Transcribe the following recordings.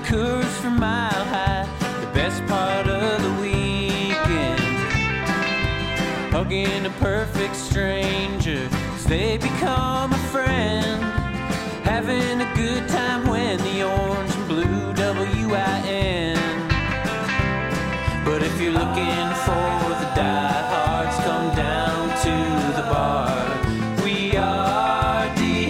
Coors from Mile High, the best part of the weekend. Hugging a perfect stranger as they become a friend. Having a good time when the orange and blue WIN. But if you're looking for the diehards, come down to the bar. We are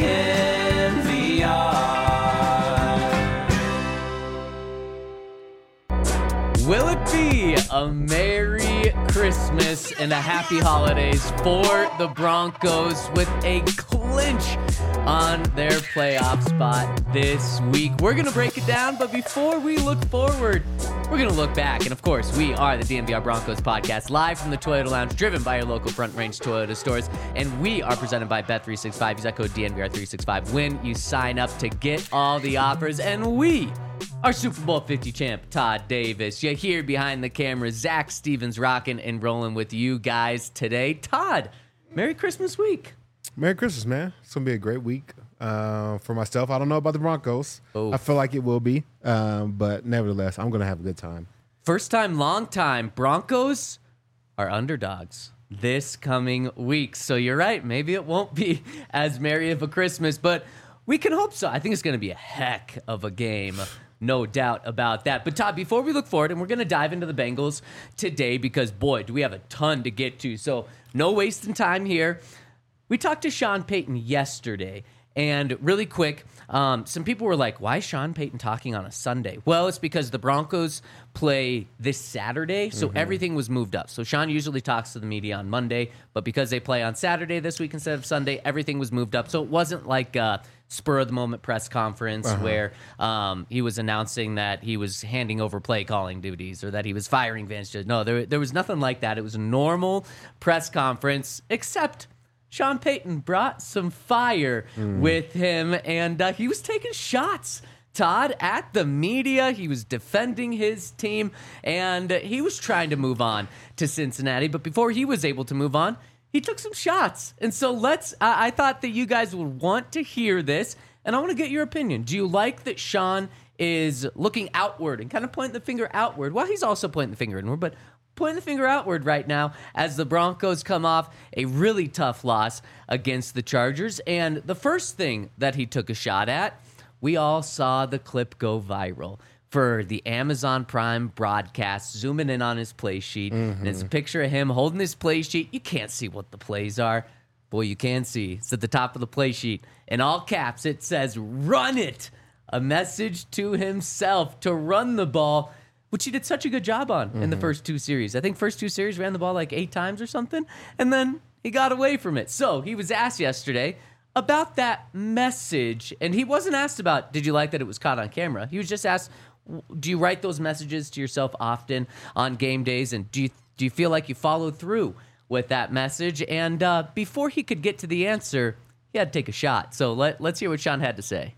DNVR. Will it be a Merry Christmas and a Happy Holidays for the Broncos with a clinch on their playoff spot this week? We're going to break it down, but before we look forward, we're going to look back. And of course, we are the DNVR Broncos podcast, live from the Toyota Lounge, driven by your local Front Range Toyota stores. And we are presented by Bet365. Use that code DNVR365 when you sign up to get all the offers. And we are Super Bowl 50 champ Todd Davis. You're here behind the camera. Zach Stevens rocking and rolling with you guys today. Todd, Merry Christmas week. Merry Christmas, man. It's going to be a great week for myself. I don't know about the Broncos. Oh. I feel like it will be, but nevertheless, I'm going to have a good time. First time, long time. Broncos are underdogs this coming week. So you're right. Maybe it won't be as merry of a Christmas, but we can hope so. I think it's going to be a heck of a game. No doubt about that. But Todd, before we look forward, and we're going to dive into the Bengals today because, boy, do we have a ton to get to. So no wasting time here. We talked to Sean Payton yesterday, and really quick, some people were like, why is Sean Payton talking on a Sunday? Well, it's because the Broncos play this Saturday, so everything was moved up. So Sean usually talks to the media on Monday, but because they play on Saturday this week instead of Sunday, everything was moved up. So it wasn't like a spur-of-the-moment press conference where he was announcing that he was handing over play calling duties or that he was firing Vance Joseph. No, there was nothing like that. It was a normal press conference, except Sean Payton brought some fire with him, and he was taking shots, Todd, at the media. He was defending his team, and he was trying to move on to Cincinnati. But before he was able to move on, he took some shots. And so I thought that you guys would want to hear this, and I want to get your opinion. Do you like that Sean is looking outward and kind of pointing the finger outward? Well, he's also pointing the finger inward, but pointing the finger outward right now as the Broncos come off a really tough loss against the Chargers. And the first thing that he took a shot at, we all saw the clip go viral for the Amazon Prime broadcast, zooming in on his play sheet. And it's a picture of him holding his play sheet. You can't see what the plays are. Boy, you can see. It's at the top of the play sheet. In all caps, it says, "Run it." A message to himself to run the ball, which he did such a good job on in the first two series. I think first two series ran the ball like 8 times or something, and then he got away from it. So he was asked yesterday about that message, and he wasn't asked about, did you like that it was caught on camera? He was just asked, do you write those messages to yourself often on game days, and do you feel like you followed through with that message? And before he could get to the answer, he had to take a shot. So let's hear what Sean had to say.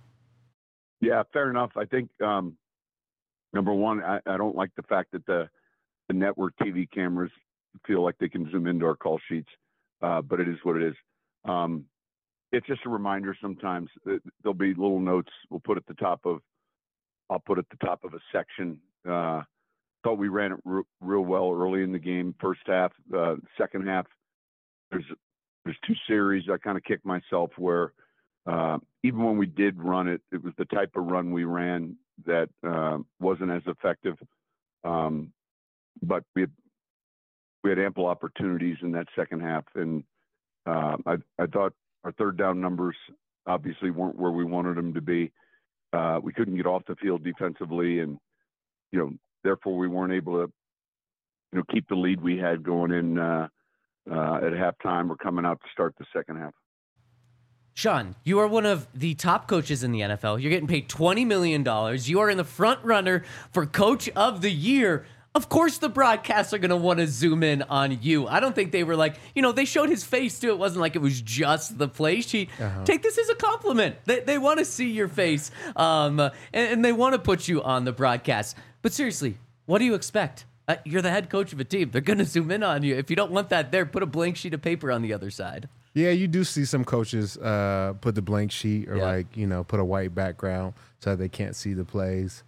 Yeah, fair enough. I think number one, I don't like the fact that the network TV cameras feel like they can zoom into our call sheets, but it is what it is. It's just a reminder sometimes. There'll be little notes I'll put at the top of a section. Thought we ran it real well early in the game, first half. Second half, there's 2 series I kind of kicked myself where even when we did run it, it was the type of run we ran that wasn't as effective. But we had ample opportunities in that second half, and I thought our third down numbers obviously weren't where we wanted them to be. We couldn't get off the field defensively, and therefore we weren't able to keep the lead we had going in at halftime or coming out to start the second half. Sean, you are one of the top coaches in the NFL. You're getting paid $20 million. You are in the front runner for Coach of the Year. Of course the broadcasts are going to want to zoom in on you. I don't think they were like, they showed his face too. It wasn't like it was just the play sheet. Take this as a compliment. They want to see your face, and they want to put you on the broadcast. But seriously, what do you expect? You're the head coach of a team. They're going to zoom in on you. If you don't want that there, put a blank sheet of paper on the other side. Yeah, you do see some coaches put the blank sheet or put a white background so that they can't see the plays.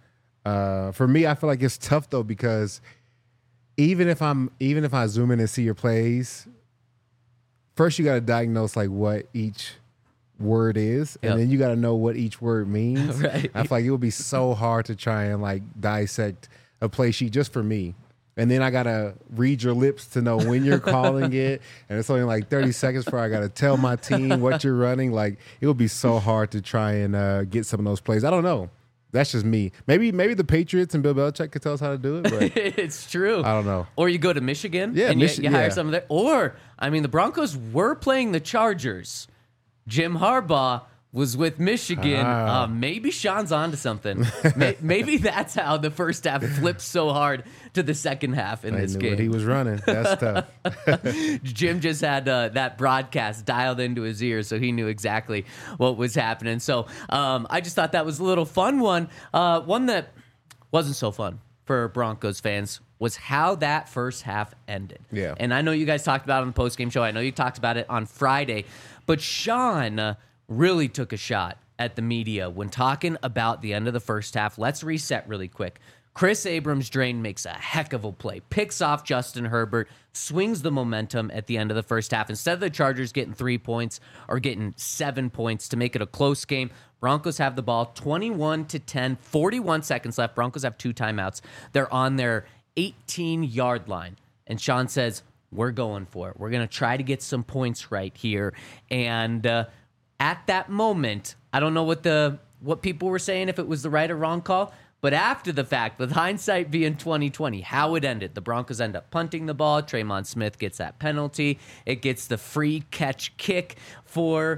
For me, I feel like it's tough though because even if I zoom in and see your plays, first you got to diagnose like what each word is, and then you got to know what each word means. Right. I feel like it would be so hard to try and like dissect a play sheet just for me. And then I gotta read your lips to know when you're calling it, and it's only like 30 seconds before I gotta tell my team what you're running. Like it would be so hard to try and get some of those plays. I don't know. That's just me. Maybe the Patriots and Bill Belichick could tell us how to do it, but It's true. I don't know. Or you go to Michigan Yeah, and you hire some of that. Or, I mean, the Broncos were playing the Chargers. Jim Harbaugh was with Michigan. Maybe Sean's onto something. Maybe that's how the first half flipped so hard to the second half in I this knew game. what he was running. That's tough. Jim just had that broadcast dialed into his ears, so he knew exactly what was happening. So I just thought that was a little fun one. One that wasn't so fun for Broncos fans was how that first half ended. Yeah. And I know you guys talked about it on the postgame show. I know you talked about it on Friday. But Sean really took a shot at the media when talking about the end of the first half. Let's reset really quick. Chris Abrams-Draine makes a heck of a play, picks off Justin Herbert, swings the momentum at the end of the first half. Instead of the Chargers getting 3 points or getting 7 points to make it a close game, Broncos have the ball 21-10, 41 seconds left. Broncos have 2 timeouts. They're on their 18-yard line. And Sean says, we're going for it. We're going to try to get some points right here. And at that moment, I don't know what people were saying, if it was the right or wrong call, but after the fact, with hindsight being 2020, how it ended, the Broncos end up punting the ball. Traymon Smith gets that penalty. It gets the free catch kick for,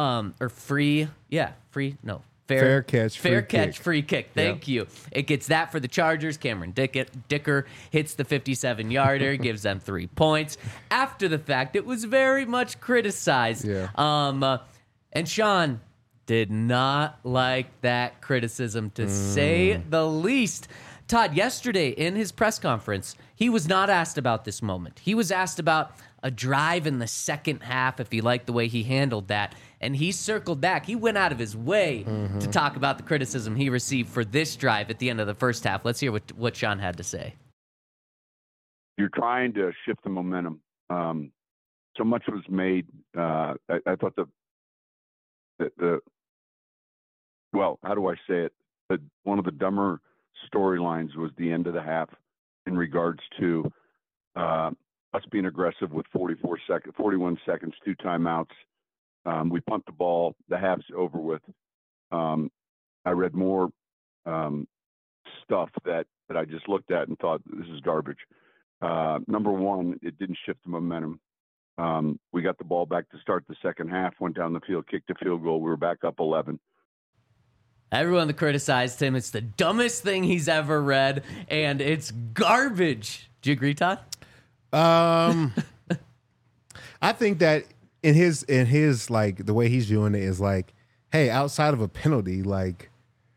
Fair catch, free kick. Thank you. It gets that for the Chargers. Cameron Dicker hits the 57-yarder, gives them 3 points. After the fact, it was very much criticized. Yeah. And Sean did not like that criticism, to say the least. Todd, yesterday in his press conference, he was not asked about this moment. He was asked about a drive in the second half, if he liked the way he handled that. And he circled back. He went out of his way to talk about the criticism he received for this drive at the end of the first half. Let's hear what Sean had to say. You're trying to shift the momentum. So much was made. I thought how do I say it? One of the dumber storylines was the end of the half in regards to us being aggressive with 41 seconds, 2 timeouts. We punt the ball. The half's over with. I read more stuff that I just looked at and thought, this is garbage. Number one, it didn't shift the momentum. We got the ball back to start the second half, went down the field, kicked a field goal. We were back up 11. Everyone that criticized him, it's the dumbest thing he's ever read, and it's garbage. Do you agree, Todd? I think that in his like the way he's viewing it is like, hey, outside of a penalty, like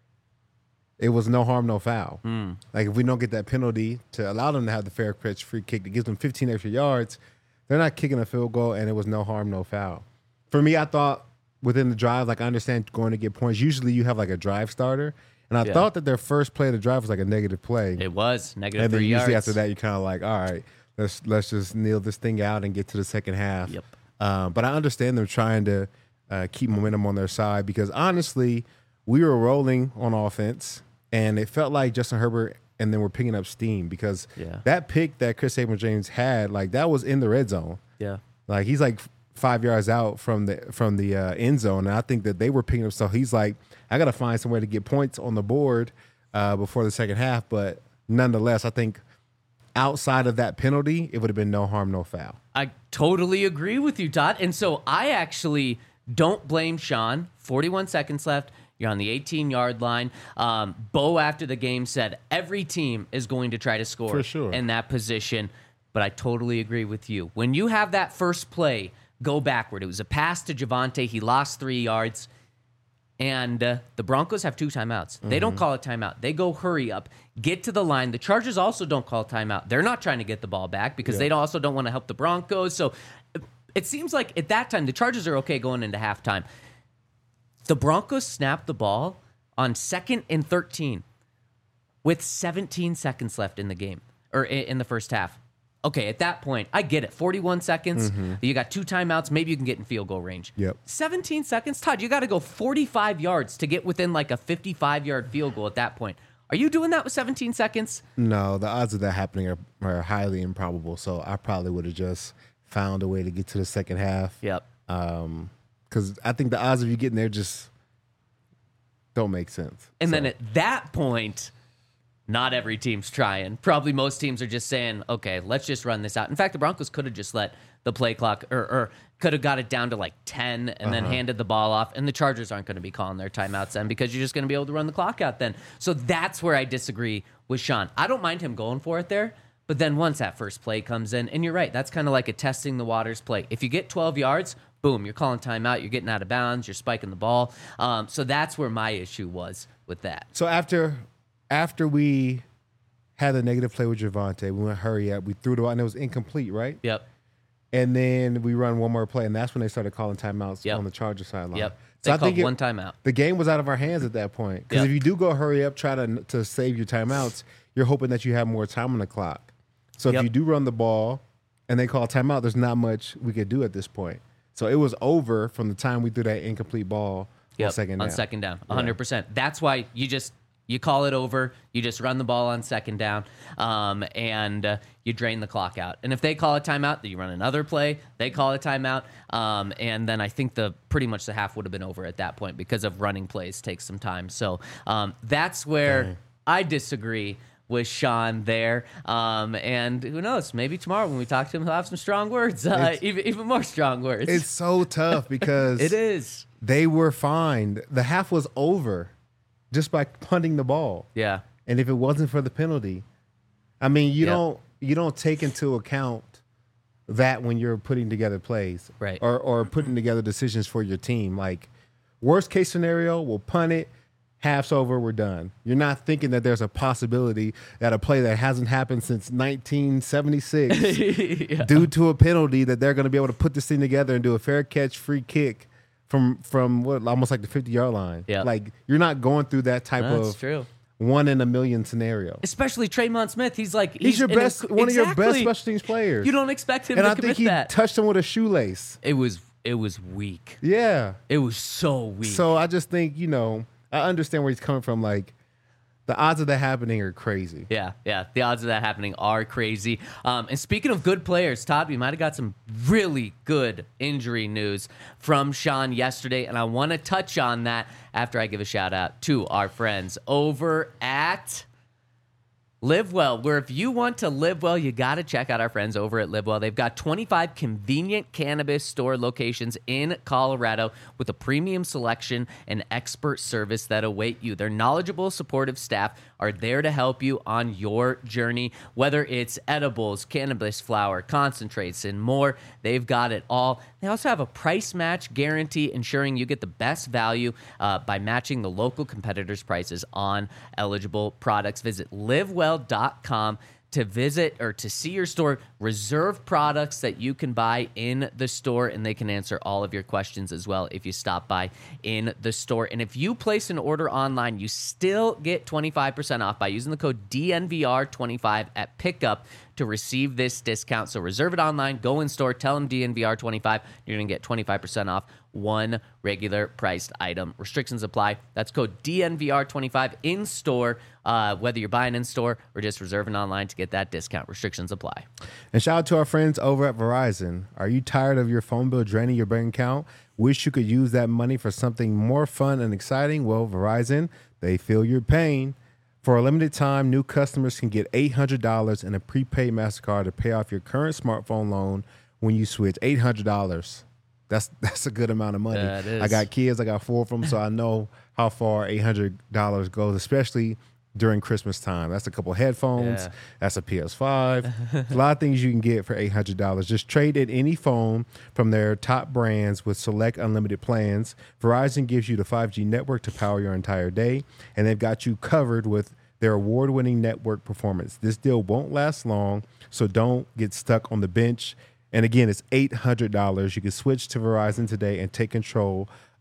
it was no harm, no foul. Like if we don't get that penalty to allow them to have the fair catch free kick that gives them 15 extra yards, they're not kicking a field goal, and it was no harm, no foul. For me, I thought within the drive, like I understand going to get points. Usually you have like a drive starter. And I thought that their first play of the drive was like a negative play. It was negative and then 3 yards. usually after that, you're kind of like, all right, let's just kneel this thing out and get to the second half. Yep. But I understand them trying to keep momentum on their side because honestly, we were rolling on offense, and it felt like Justin Herbert and then we're picking up steam because that pick that Chris Abrams-Draine had, like that was in the red zone. Yeah. Like he's like 5 yards out from the end zone, and I think that they were picking up. So he's like, I got to find somewhere to get points on the board before the second half. But nonetheless, I think outside of that penalty, it would have been no harm, no foul. I totally agree with you, Todd. And so I actually don't blame Sean. 41 seconds left. You're on the 18-yard line. Bo, after the game, said every team is going to try to score For sure. in that position. But I totally agree with you. When you have that first play go backward, it was a pass to Javonte. He lost 3 yards. And the Broncos have 2 timeouts. They don't call a timeout. They go hurry up, get to the line. The Chargers also don't call a timeout. They're not trying to get the ball back because they also don't want to help the Broncos. So it seems like at that time, the Chargers are okay going into halftime. The Broncos snapped the ball on 2nd and 13. with 17 seconds left in the game or in the first half. Okay, at that point, I get it. 41 seconds. You got 2 timeouts. Maybe you can get in field goal range. Yep. 17 seconds, Todd. You got to go 45 yards to get within like a 55-yard field goal at that point. Are you doing that with 17 seconds? No, the odds of that happening are highly improbable. So I probably would have just found a way to get to the second half. Yep. Because I think the odds of you getting there just don't make sense. And then at that point, not every team's trying. Probably most teams are just saying, okay, let's just run this out. In fact, the Broncos could have just let the play clock or could have got it down to like 10 and then handed the ball off. And the Chargers aren't going to be calling their timeouts then because you're just going to be able to run the clock out then. So that's where I disagree with Sean. I don't mind him going for it there. But then once that first play comes in, and you're right, that's kind of like a testing the waters play. If you get 12 yards, boom, you're calling timeout, you're getting out of bounds, you're spiking the ball. So that's where my issue was with that. So after we had the negative play with Javonte, we went hurry up, we threw the ball, and it was incomplete, right? Yep. And then we run one more play, and that's when they started calling timeouts Yep. on the Charger sideline. Yep. So They I think called one timeout. The game was out of our hands at that point. Because Yep. if you do go hurry up, try to save your timeouts, you're hoping that you have more time on the clock. So if Yep. you do run the ball and they call timeout, there's not much we could do at this point. So it was over from the time we threw that incomplete ball on second down. On second down, 100%. That's why you call it over. You just run the ball on second down, and you drain the clock out. And if they call a timeout, then you run another play. They call a timeout, and then I think pretty much the half would have been over at that point because of running plays takes some time. So that's where I disagree with Sean there. And who knows, maybe tomorrow when we talk to him, he'll have some strong words, even more strong words. It's so tough because It is. they were fined. The half was over just by punting the ball. Yeah. And if it wasn't for the penalty, I mean, you don't take into account that when you're putting together plays, Right. Or putting together decisions for your team. Like worst case scenario, we'll punt it. Half's over, we're done. You're not thinking that there's a possibility that a play that hasn't happened since 1976 due to a penalty that they're going to be able to put this thing together and do a fair catch, free kick from what almost like the 50-yard line. Yeah. Like you're not going through that type That's of true. 1 in a million scenario. Especially Tremont Smith. He's one Of your best special teams players. You don't expect him and to I commit think he that. touched him with a shoelace. It was weak. Yeah. It was so weak. So I just think, I understand where he's coming from. Like, the odds of that happening are crazy. Yeah. The odds of that happening are crazy. And speaking of good players, Todd, we might have got some really good injury news from Sean yesterday, and I want to touch on that after I give a shout out to our friends over at Live Well, where if you want to live well, you got to check out our friends over at Live Well. They've got 25 convenient cannabis store locations in Colorado with a premium selection and expert service that await you. Their knowledgeable, supportive staff are there to help you on your journey, whether it's edibles, cannabis flower, concentrates, and more. They've got it all. They also have a price match guarantee, ensuring you get the best value by matching the local competitors' prices on eligible products. Visit livewell.com to visit or to see your store, reserve products that you can buy in the store, and they can answer all of your questions as well if you stop by in the store. And if you place an order online, you still get 25% off by using the code DNVR25 at pickup to receive this discount. So reserve it online, go in store, tell them DNVR25. You're going to get 25% off one regular priced item. Restrictions apply. That's code DNVR25 in store, whether you're buying in store or just reserving online to get that discount. Restrictions apply. And shout out to our friends over at Verizon. Are you tired of your phone bill draining your bank account? Wish you could use that money for something more fun and exciting? Well, Verizon, they feel your pain. For a limited time, new customers can get $800 in a prepaid MasterCard to pay off your current smartphone loan when you switch. $800. That's a good amount of money. Yeah, it is. I got kids. I got 4 of them, so I know how far $800 goes, especially during Christmas time. That's a couple headphones. Yeah. That's a PS5. A lot of things you can get for $800. Just trade in any phone from their top brands with select unlimited plans. Verizon gives you the 5G network to power your entire day, and they've got you covered with their award-winning network performance. This deal won't last long, so don't get stuck on the bench. And again, it's $800. You can switch to Verizon today and take control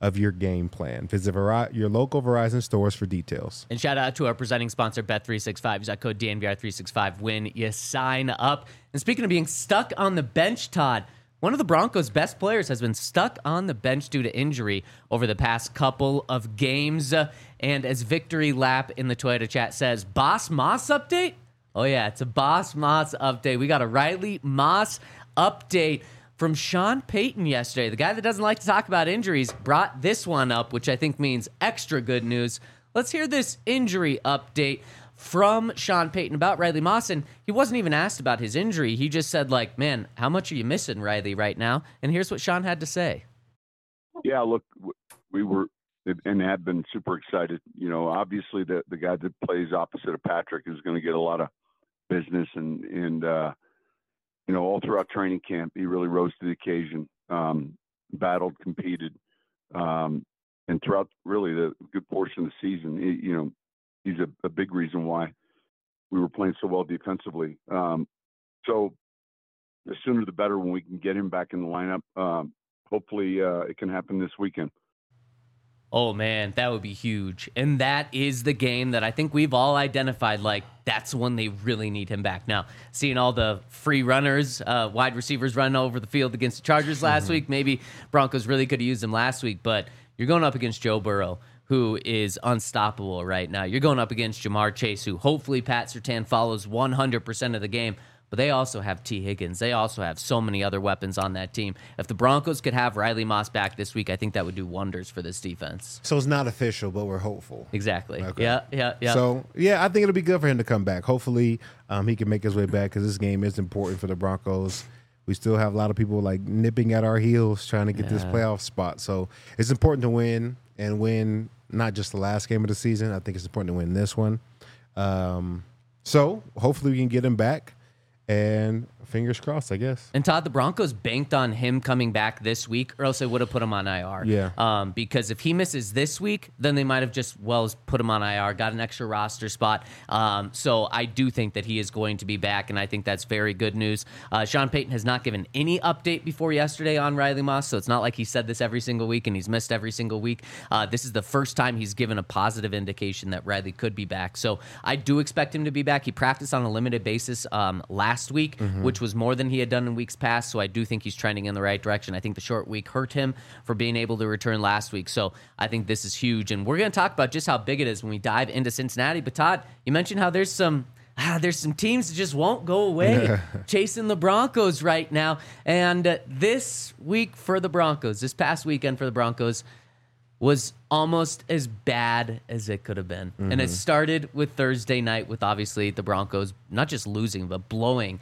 of your game plan. Visit your local Verizon stores for details. And shout out to our presenting sponsor, Bet365. Use that code DNVR365 when you sign up. And speaking of being stuck on the bench, Todd, one of the Broncos' best players has been stuck on the bench due to injury over the past couple of games. And as Victory Lap in the Toyota chat says, Boss Moss update? Oh, yeah, it's a Boss Moss update. We got a Riley Moss update from Sean Payton yesterday. The guy that doesn't like to talk about injuries brought this one up, which I think means extra good news. Let's hear this injury update from Sean Payton about Riley Moss. And he wasn't even asked about his injury. He just said, like, man, how much are you missing, Riley, right now? And here's what Sean had to say. Yeah, look, we were and have been super excited. You know, obviously the guy that plays opposite of Patrick is going to get a lot of business and you know, all throughout training camp, he really rose to the occasion, battled, competed, and throughout really the good portion of the season, you know, he's a big reason why we were playing so well defensively. So the sooner the better when we can get him back in the lineup. Hopefully it can happen this weekend. Oh, man, that would be huge. And that is the game that I think we've all identified, like, that's when they really need him back. Now, seeing all the free runners, wide receivers running over the field against the Chargers last week, maybe Broncos really could have used him last week, but you're going up against Joe Burrow, who is unstoppable right now. You're going up against Jamar Chase, who hopefully Pat Surtain follows 100% of the game. But they also have T. Higgins. They also have so many other weapons on that team. If the Broncos could have Riley Moss back this week, I think that would do wonders for this defense. So it's not official, but we're hopeful. Exactly. Okay. Yeah. So, yeah, I think it'll be good for him to come back. Hopefully he can make his way back because this game is important for the Broncos. We still have a lot of people like nipping at our heels trying to get this playoff spot. So it's important to win and win not just the last game of the season. I think it's important to win this one. So hopefully we can get him back. And fingers crossed, I guess. And Todd, the Broncos banked on him coming back this week, or else they would have put him on IR. Yeah. Because if he misses this week, then they might have just put him on IR, got an extra roster spot. So I do think that he is going to be back, and I think that's very good news. Sean Payton has not given any update before yesterday on Riley Moss, so it's not like he said this every single week and he's missed every single week. This is the first time he's given a positive indication that Riley could be back. So I do expect him to be back. He practiced on a limited basis last week, which was more than he had done in weeks past, so I do think he's trending in the right direction. I think the short week hurt him for being able to return last week, so I think this is huge. And we're going to talk about just how big it is when we dive into Cincinnati. But Todd, you mentioned how there's some teams that just won't go away chasing the Broncos right now. And this week for the Broncos, this past weekend for the Broncos, was almost as bad as it could have been. And it started with Thursday night with obviously the Broncos not just losing, but blowing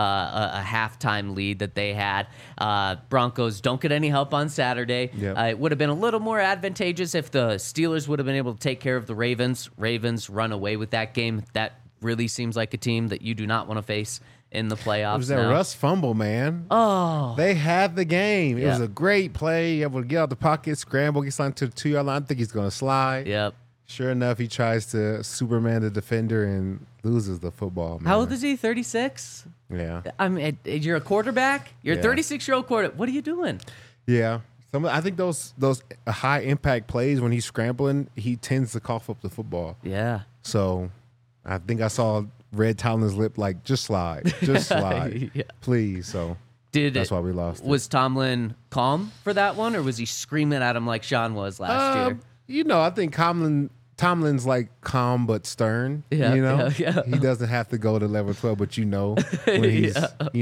a halftime lead that they had. Broncos don't get any help on Saturday. Yep. It would have been a little more advantageous if the Steelers would have been able to take care of the Ravens. Ravens run away with that game. That really seems like a team that you do not want to face in the playoffs. It was that now. Russ fumble, man. Oh. They had the game. It Yeah. was a great play. Able to get out the pocket, scramble, get signed to the 2-yard line. I think he's going to slide. Yep. Sure enough, he tries to Superman the defender and loses the football. Man. How old is he? 36? Yeah. I mean, you're a quarterback. You're Yeah. a 36-year-old quarterback. What are you doing? Yeah. I think those high impact plays when he's scrambling, he tends to cough up the football. Yeah. So I think I saw Red Tomlin's lip like, just slide. Just slide. Yeah. Please. So that's why we lost. Was Tomlin calm for that one, or was he screaming at him like Sean was last year? You know, I think Tomlin's like calm but stern. Yeah, you know, yeah. He doesn't have to go to level 12, but when he's,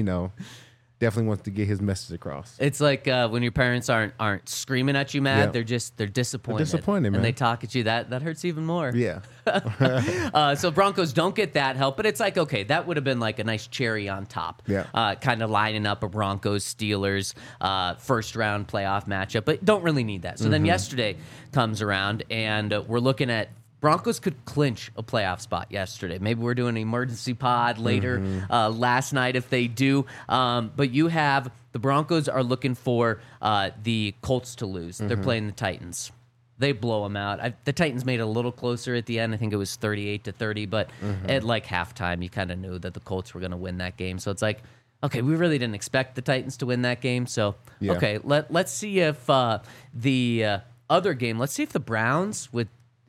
definitely wants to get his message across. It's like when your parents aren't screaming at you mad, they're disappointed. They're disappointed, man. And they talk at you. That hurts even more. Yeah. So Broncos don't get that help, but it's like, okay, that would have been like a nice cherry on top. Yeah. Kind of lining up a Broncos-Steelers first-round playoff matchup, but don't really need that. So then yesterday comes around, and we're looking at Broncos could clinch a playoff spot yesterday. Maybe we're doing an emergency pod later last night if they do. But you have the Broncos are looking for the Colts to lose. They're playing the Titans. They blow them out. The Titans made it a little closer at the end. I think it was 38-30. But at like halftime, you kind of knew that the Colts were going to win that game. So it's like, okay, we really didn't expect the Titans to win that game. So, okay, let's see if the other game, let's see if the Browns with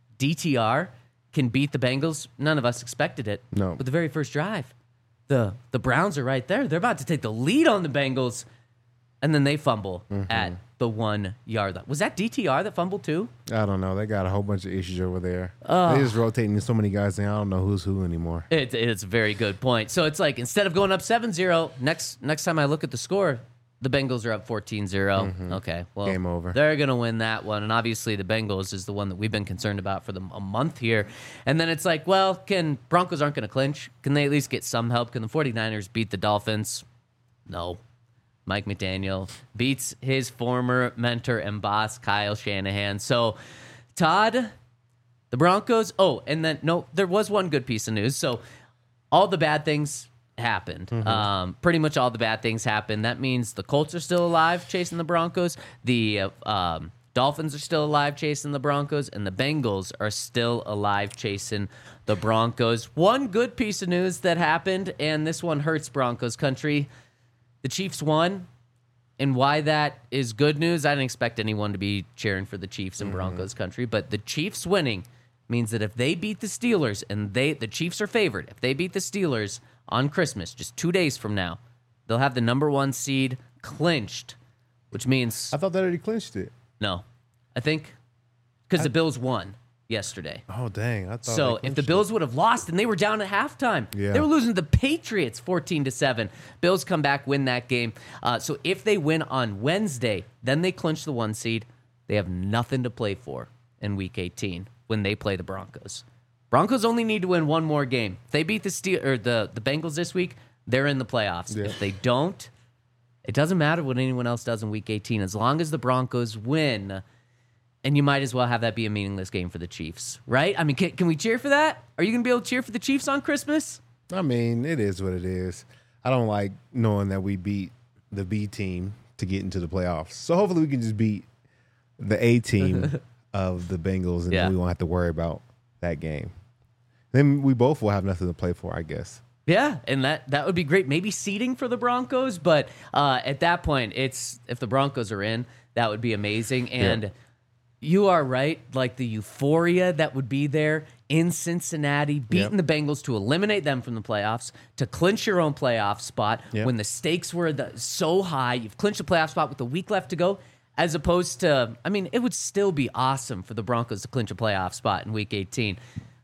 DTR can beat the Bengals. None of us expected it. No. With the very first drive. The Browns are right there. They're about to take the lead on the Bengals, and then they fumble at the 1 yard line. Was that DTR that fumbled too? I don't know. They got a whole bunch of issues over there. They just rotating so many guys, and I don't know who's who anymore. It's a very good point. So it's like instead of going up 7-0, next time I look at the score, the Bengals are up 14-0. Okay, well, Game over. They're going to win that one. And obviously the Bengals is the one that we've been concerned about for a month here. And then it's like, well, Broncos aren't going to clinch. Can they at least get some help? Can the 49ers beat the Dolphins? No. Mike McDaniel beats his former mentor and boss, Kyle Shanahan. So, Todd, the Broncos. Oh, and then, no, there was one good piece of news. So, all the bad things happened. Pretty much all the bad things happened. That means the Colts are still alive chasing the Broncos. The Dolphins are still alive chasing the Broncos. And the Bengals are still alive chasing the Broncos. One good piece of news that happened, and this one hurts Broncos country. The Chiefs won, and why that is good news, I didn't expect anyone to be cheering for the Chiefs in Broncos country, but the Chiefs winning means that if they beat the Steelers, and the Chiefs are favored, if they beat the Steelers on Christmas, just 2 days from now, they'll have the number 1 seed clinched, which means... I thought they already clinched it. No. I think because the Bills won yesterday. Oh, dang. I thought So they if the clinched Bills would have lost, and they were down at halftime, Yeah. they were losing to the Patriots 14-7. Bills come back, win that game. So if they win on Wednesday, then they clinch the 1 seed. They have nothing to play for in Week 18 when they play the Broncos. Broncos only need to win one more game. If they beat the Bengals this week, they're in the playoffs. Yeah. If they don't, it doesn't matter what anyone else does in Week 18. As long as the Broncos win, and you might as well have that be a meaningless game for the Chiefs, right? I mean, can we cheer for that? Are you going to be able to cheer for the Chiefs on Christmas? I mean, it is what it is. I don't like knowing that we beat the B team to get into the playoffs. So hopefully we can just beat the A team of the Bengals, and then we won't have to worry about that game. Then we both will have nothing to play for, I guess. Yeah, and that would be great. Maybe seeding for the Broncos, but at that point, if the Broncos are in, that would be amazing. And you are right, like the euphoria that would be there in Cincinnati, beating the Bengals to eliminate them from the playoffs, to clinch your own playoff spot when the stakes were so high. You've clinched a playoff spot with a week left to go, as opposed to, I mean, it would still be awesome for the Broncos to clinch a playoff spot in Week 18.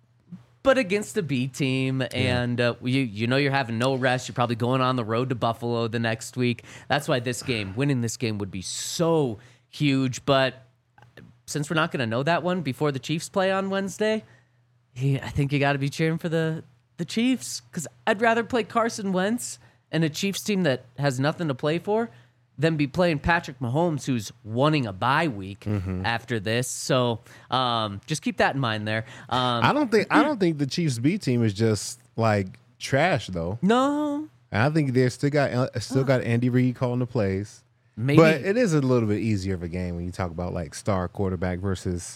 But against the B team, and you know you're having no rest. You're probably going on the road to Buffalo the next week. That's why winning this game would be so huge. But since we're not going to know that one before the Chiefs play on Wednesday, I think you got to be cheering for the Chiefs, because I'd rather play Carson Wentz and a Chiefs team that has nothing to play for than be playing Patrick Mahomes, who's wanting a bye week after this. So just keep that in mind there. I don't think the Chiefs B team is just like trash though. No, I think they still got Andy Reid calling the plays. maybe. But it is a little bit easier of a game when you talk about like star quarterback versus.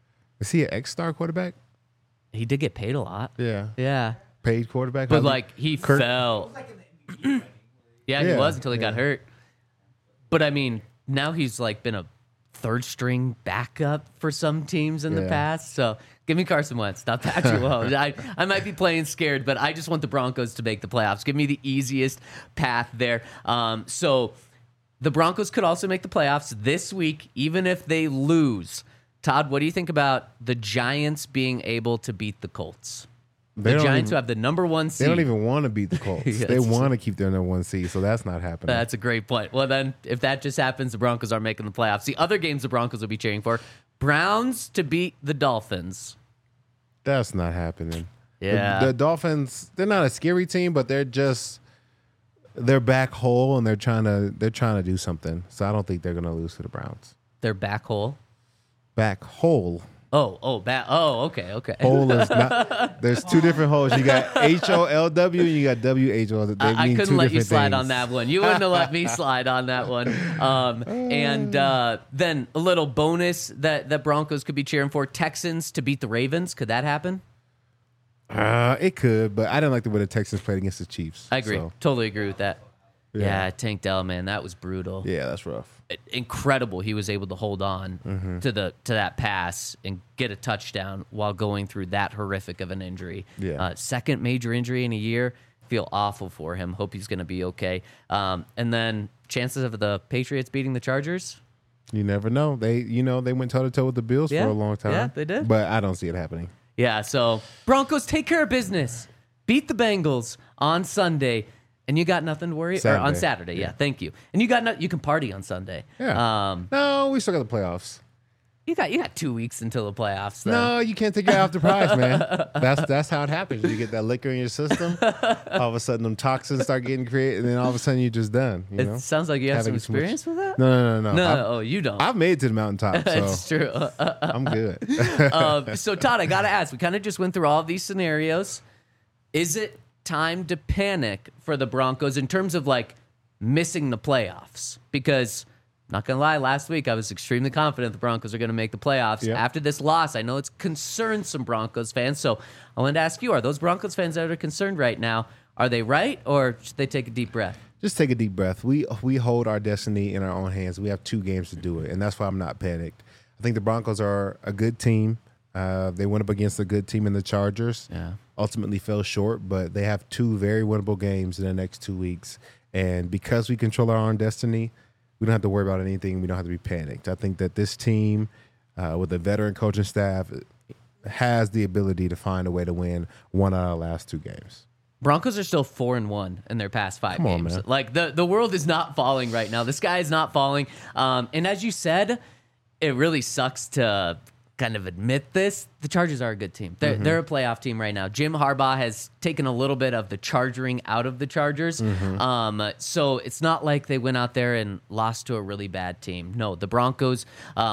Is he an ex-star quarterback? He did get paid a lot. Yeah, Yeah. paid quarterback. But like he fell. Yeah, he Yeah, was until he got hurt. But I mean, now he's like been a third string backup for some teams in the Yeah. past. So give me Carson Wentz, not Patrick Mahomes. I might be playing scared, but I just want the Broncos to make the playoffs. Give me the easiest path there. So the Broncos could also make the playoffs this week, even if they lose. Todd, what do you think about the Giants being able to beat the Colts? The Giants who have the number 1 seed. They don't even want to beat the Colts. Yes. They want to keep their number 1 seed, so that's not happening. That's a great point. Well, then, if that just happens, the Broncos are making the playoffs. The other games the Broncos will be cheering for: Browns to beat the Dolphins. That's not happening. Yeah. The Dolphins, they're not a scary team, but they're back whole, and they're trying to do something. So I don't think they're going to lose to the Browns. They're back whole. Back whole. Okay. Hole is not. There's two different holes. You got HOLW and you got WHO. I couldn't let you slide on that one. You wouldn't have let me slide on that one. And then a little bonus that Broncos could be cheering for: Texans to beat the Ravens. Could that happen? It could, but I didn't like the way the Texans played against the Chiefs. I agree. So. Totally agree with that. Yeah, Tank Dell, man, that was brutal. Yeah, that's rough. Incredible he was able to hold on to that pass and get a touchdown while going through that horrific of an injury. Yeah. Second major injury in a year. Feel awful for him. Hope he's going to be okay. And then chances of the Patriots beating the Chargers? You never know. They went toe to toe with the Bills for a long time. Yeah, they did. But I don't see it happening. Yeah, so Broncos take care of business. Beat the Bengals on Sunday. And you got nothing to worry or on Saturday. Yeah, thank you. And you can party on Sunday. Yeah. No, we still got the playoffs. You got 2 weeks until the playoffs. Though. No, you can't take your eye off the prize, man. That's how it happens. You get that liquor in your system. All of a sudden, them toxins start getting created, and then all of a sudden, you're just done. You know? It sounds like you have some experience with that. No. No, you don't. I've made it to the mountaintop, so It's true. I'm good. So Todd, I gotta ask. We kind of just went through all of these scenarios. Is it time to panic for the Broncos in terms of like missing the playoffs? Because not gonna lie, last week I was extremely confident the Broncos are gonna make the playoffs. Yep. After this loss, I know it's concerned some Broncos fans. So I wanted to ask you: are those Broncos fans that are concerned right now? Are they right, or should they take a deep breath? Just take a deep breath. We hold our destiny in our own hands. We have 2 games to do it, and that's why I'm not panicked. I think the Broncos are a good team. They went up against a good team in the Chargers. Yeah. Ultimately fell short, but they have 2 very winnable games in the next 2 weeks. And because we control our own destiny, we don't have to worry about anything. We don't have to be panicked. I think that this team, with a veteran coaching staff, has the ability to find a way to win 1 out of the last 2 games. Broncos are still 4-1 in their past 5 Come on, games. man. Like the world is not falling right now. The sky is not falling. And as you said, it really sucks to kind of admit this. The Chargers are a good team. They're a playoff team right now. Jim Harbaugh has taken a little bit of the chargering out of the Chargers. So it's not like they went out there and lost to a really bad team. No, the Broncos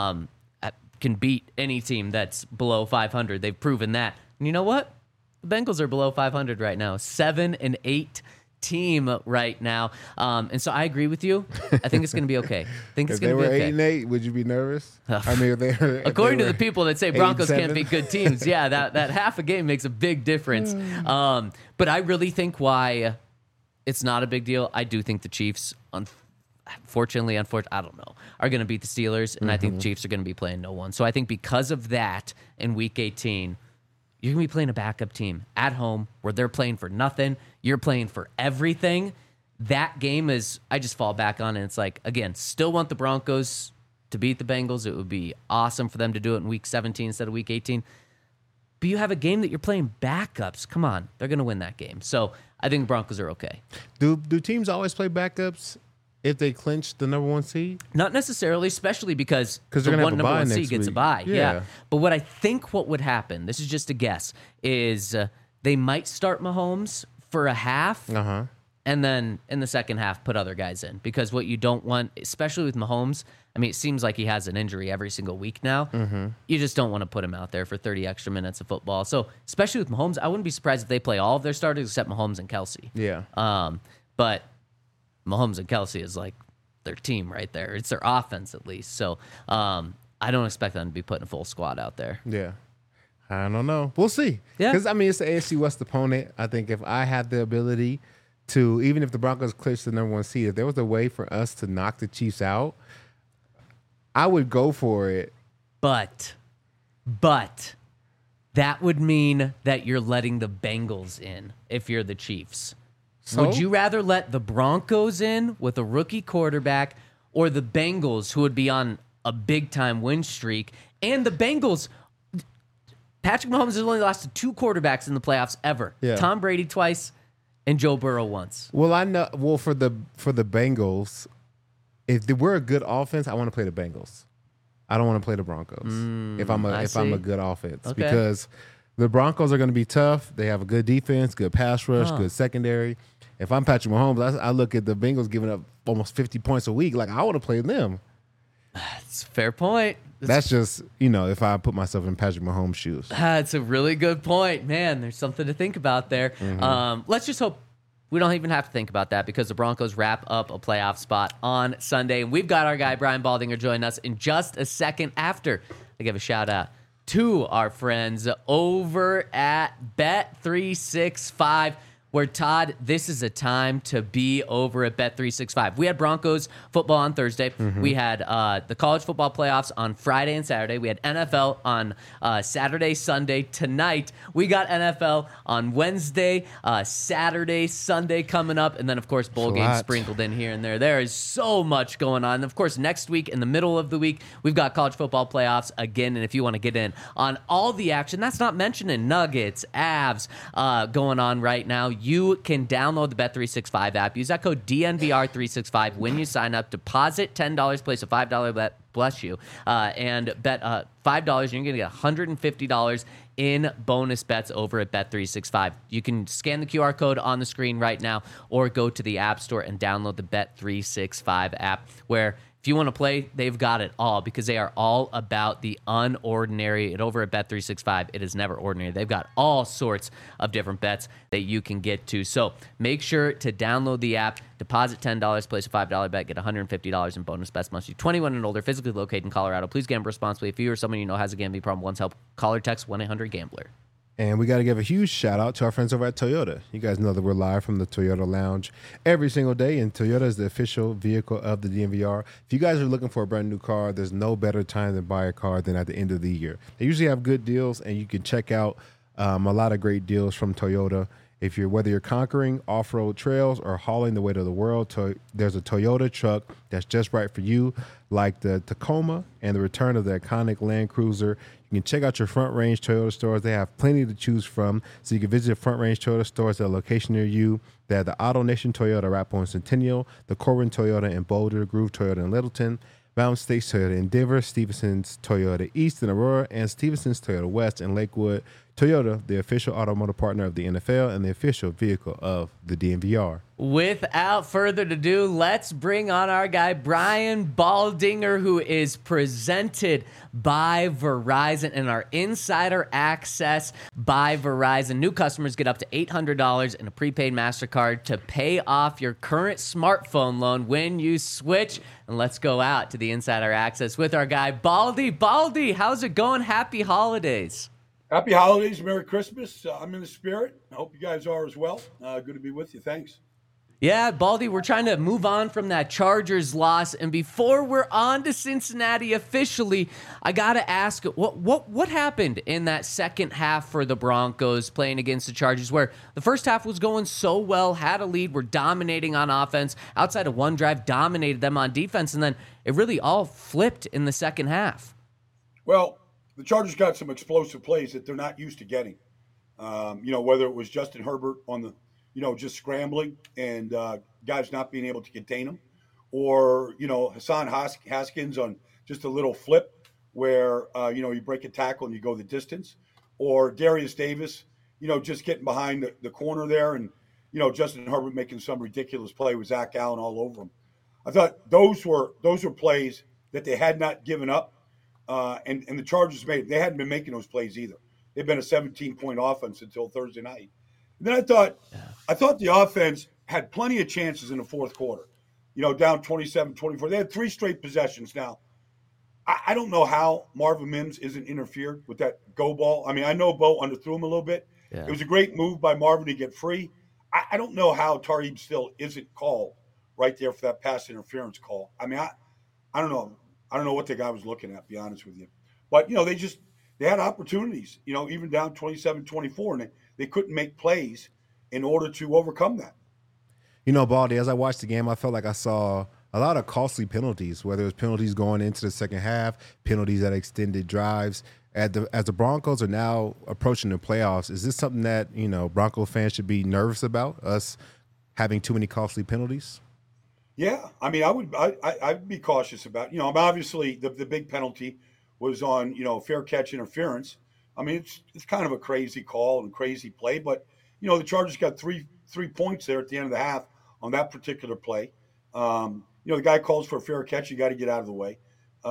can beat any team that's below 500. They've proven that. And you know what? The Bengals are below 500 right now. 7-8 team right now. And so I agree with you. I think it's going to be okay. I think it's If they going to were be okay. 8-8, would you be nervous? I mean, if they were, According to the people that say Broncos can't 8-7. beat good teams, yeah, that half a game makes a big difference. But I really think why it's not a big deal. I do think the Chiefs, unfortunately, I don't know, are going to beat the Steelers, and I think the Chiefs are going to be playing no one. So I think because of that, in Week 18, you're going to be playing a backup team at home where they're playing for nothing. You're playing for everything. That game is, I just fall back on it. It's like, again, still want the Broncos to beat the Bengals. It would be awesome for them to do it in Week 17 instead of Week 18. But you have a game that you're playing backups. Come on. They're going to win that game. So I think the Broncos are okay. Do teams always play backups if they clinch the number 1 seed? Not necessarily, especially because they're the gonna have one a number bye 1 seed next gets a week. bye. Yeah. Yeah. But what I think what would happen, this is just a guess, is they might start Mahomes for a half. And then in the second half, put other guys in. Because what you don't want, especially with Mahomes, I mean, it seems like he has an injury every single week now. You just don't want to put him out there for 30 extra minutes of football. So, especially with Mahomes, I wouldn't be surprised if they play all of their starters except Mahomes and Kelsey. Yeah. But Mahomes and Kelsey is like their team right there. It's their offense, at least. So, I don't expect them to be putting a full squad out there. Yeah. I don't know. We'll see. Yeah. Because, I mean, it's the AFC West opponent. I think if I had the ability to, even if the Broncos clinch the number 1 seed, if there was a way for us to knock the Chiefs out, I would go for it. But that would mean that you're letting the Bengals in if you're the Chiefs. So? Would you rather let the Broncos in with a rookie quarterback or the Bengals, who would be on a big-time win streak? And the Bengals, Patrick Mahomes has only lost to 2 quarterbacks in the playoffs ever. Yeah. Tom Brady twice and Joe Burrow once. Well, I know. Well, for the Bengals, if we're a good offense, I want to play the Bengals. I don't want to play the Broncos if I'm a good offense, Okay. because the Broncos are going to be tough. They have a good defense, good pass rush, good secondary. If I'm Patrick Mahomes, I look at the Bengals giving up almost 50 points a week. Like, I want to play them. It's a fair point. That's just, if I put myself in Patrick Mahomes' shoes. That's a really good point. Man, there's something to think about there. Let's just hope we don't even have to think about that, because the Broncos wrap up a playoff spot on Sunday. And we've got our guy, Brian Baldinger, join us in just a second after I give a shout out to our friends over at Bet365, where, Todd, this is a time to be over at Bet365. We had Broncos football on Thursday. We had the college football playoffs on Friday and Saturday. We had NFL on Saturday, Sunday. Tonight, we got NFL on Wednesday, Saturday, Sunday coming up, and then, of course, bowl games sprinkled in here and there. There is so much going on. And, of course, next week, in the middle of the week, we've got college football playoffs again, and if you want to get in on all the action, that's not mentioning Nuggets, Avs going on right now, you can download the Bet365 app. Use that code DNVR365 when you sign up. Deposit $10, place a $5 bet, bless you, and bet $5, and you're going to get $150 in bonus bets over at Bet365. You can scan the QR code on the screen right now or go to the App Store and download the Bet365 app, where if you want to play, they've got it all, because they are all about the unordinary. And over at Bet365, it is never ordinary. They've got all sorts of different bets that you can get to. So make sure to download the app, deposit $10, place a $5 bet, get $150 in bonus bets. Must be 21 and older, physically located in Colorado. Please gamble responsibly. If you or someone you know has a gambling problem, once help, call or text 1-800-GAMBLER. And we got to give a huge shout out to our friends over at Toyota. You guys know that we're live from the Toyota Lounge every single day, and Toyota is the official vehicle of the DNVR. If you guys are looking for a brand new car, there's no better time to buy a car than at the end of the year. They usually have good deals, and you can check out a lot of great deals from Toyota. Whether you're conquering off-road trails or hauling the weight of the world, there's a Toyota truck that's just right for you, like the Tacoma and the return of the iconic Land Cruiser. You can check out your Front Range Toyota stores. They have plenty to choose from, so you can visit Front Range Toyota stores at a location near you. They have the Auto Nation Toyota Arapahoe and Centennial, the Corbin Toyota in Boulder, Groove Toyota in Littleton, Mountain States Toyota in Denver, Stevenson's Toyota East in Aurora, and Stevenson's Toyota West in Lakewood. Toyota, the official automotive partner of the NFL and the official vehicle of the DNVR. Without further ado, let's bring on our guy, Brian Baldinger, who is presented by Verizon and our insider access by Verizon. New customers get up to $800 in a prepaid MasterCard to pay off your current smartphone loan when you switch. And let's go out to the insider access with our guy, Baldy. Baldy, how's it going? Happy holidays. Happy holidays, Merry Christmas. I'm in the spirit. I hope you guys are as well. Good to be with you. Thanks. Yeah, Baldy, we're trying to move on from that Chargers loss, and before we're on to Cincinnati officially, I gotta ask, what happened in that second half for the Broncos playing against the Chargers, where the first half was going so well, had a lead, were dominating on offense, outside of one drive, dominated them on defense, and then it really all flipped in the second half? Well, the Chargers got some explosive plays that they're not used to getting. Whether it was Justin Herbert on the, just scrambling and guys not being able to contain him, or, Hassan Haskins on just a little flip where, you break a tackle and you go the distance, or Darius Davis, just getting behind the corner there and, Justin Herbert making some ridiculous play with Zach Allen all over him. I thought those were plays that they had not given up. And the Chargers they hadn't been making those plays either. They've been a 17-point offense until Thursday night. And then I thought the offense had plenty of chances in the fourth quarter, down 27-24. They had 3 straight possessions. Now, I don't know how Marvin Mims isn't interfered with that go ball. I mean, I know Bo underthrew him a little bit. Yeah. It was a great move by Marvin to get free. I don't know how Tariq still isn't called right there for that pass interference call. I mean, I don't know. I don't know what the guy was looking at, to be honest with you. But, they had opportunities, even down 27-24, and they couldn't make plays in order to overcome that. Baldy, as I watched the game, I felt like I saw a lot of costly penalties, whether it was penalties going into the second half, penalties that extended drives. As the Broncos are now approaching the playoffs, is this something that, Bronco fans should be nervous about, us having too many costly penalties? Yeah, I mean, I'd be cautious about. Obviously the big penalty was on fair catch interference. I mean, it's kind of a crazy call and crazy play, but the Chargers got three points there at the end of the half on that particular play. The guy calls for a fair catch, you got to get out of the way.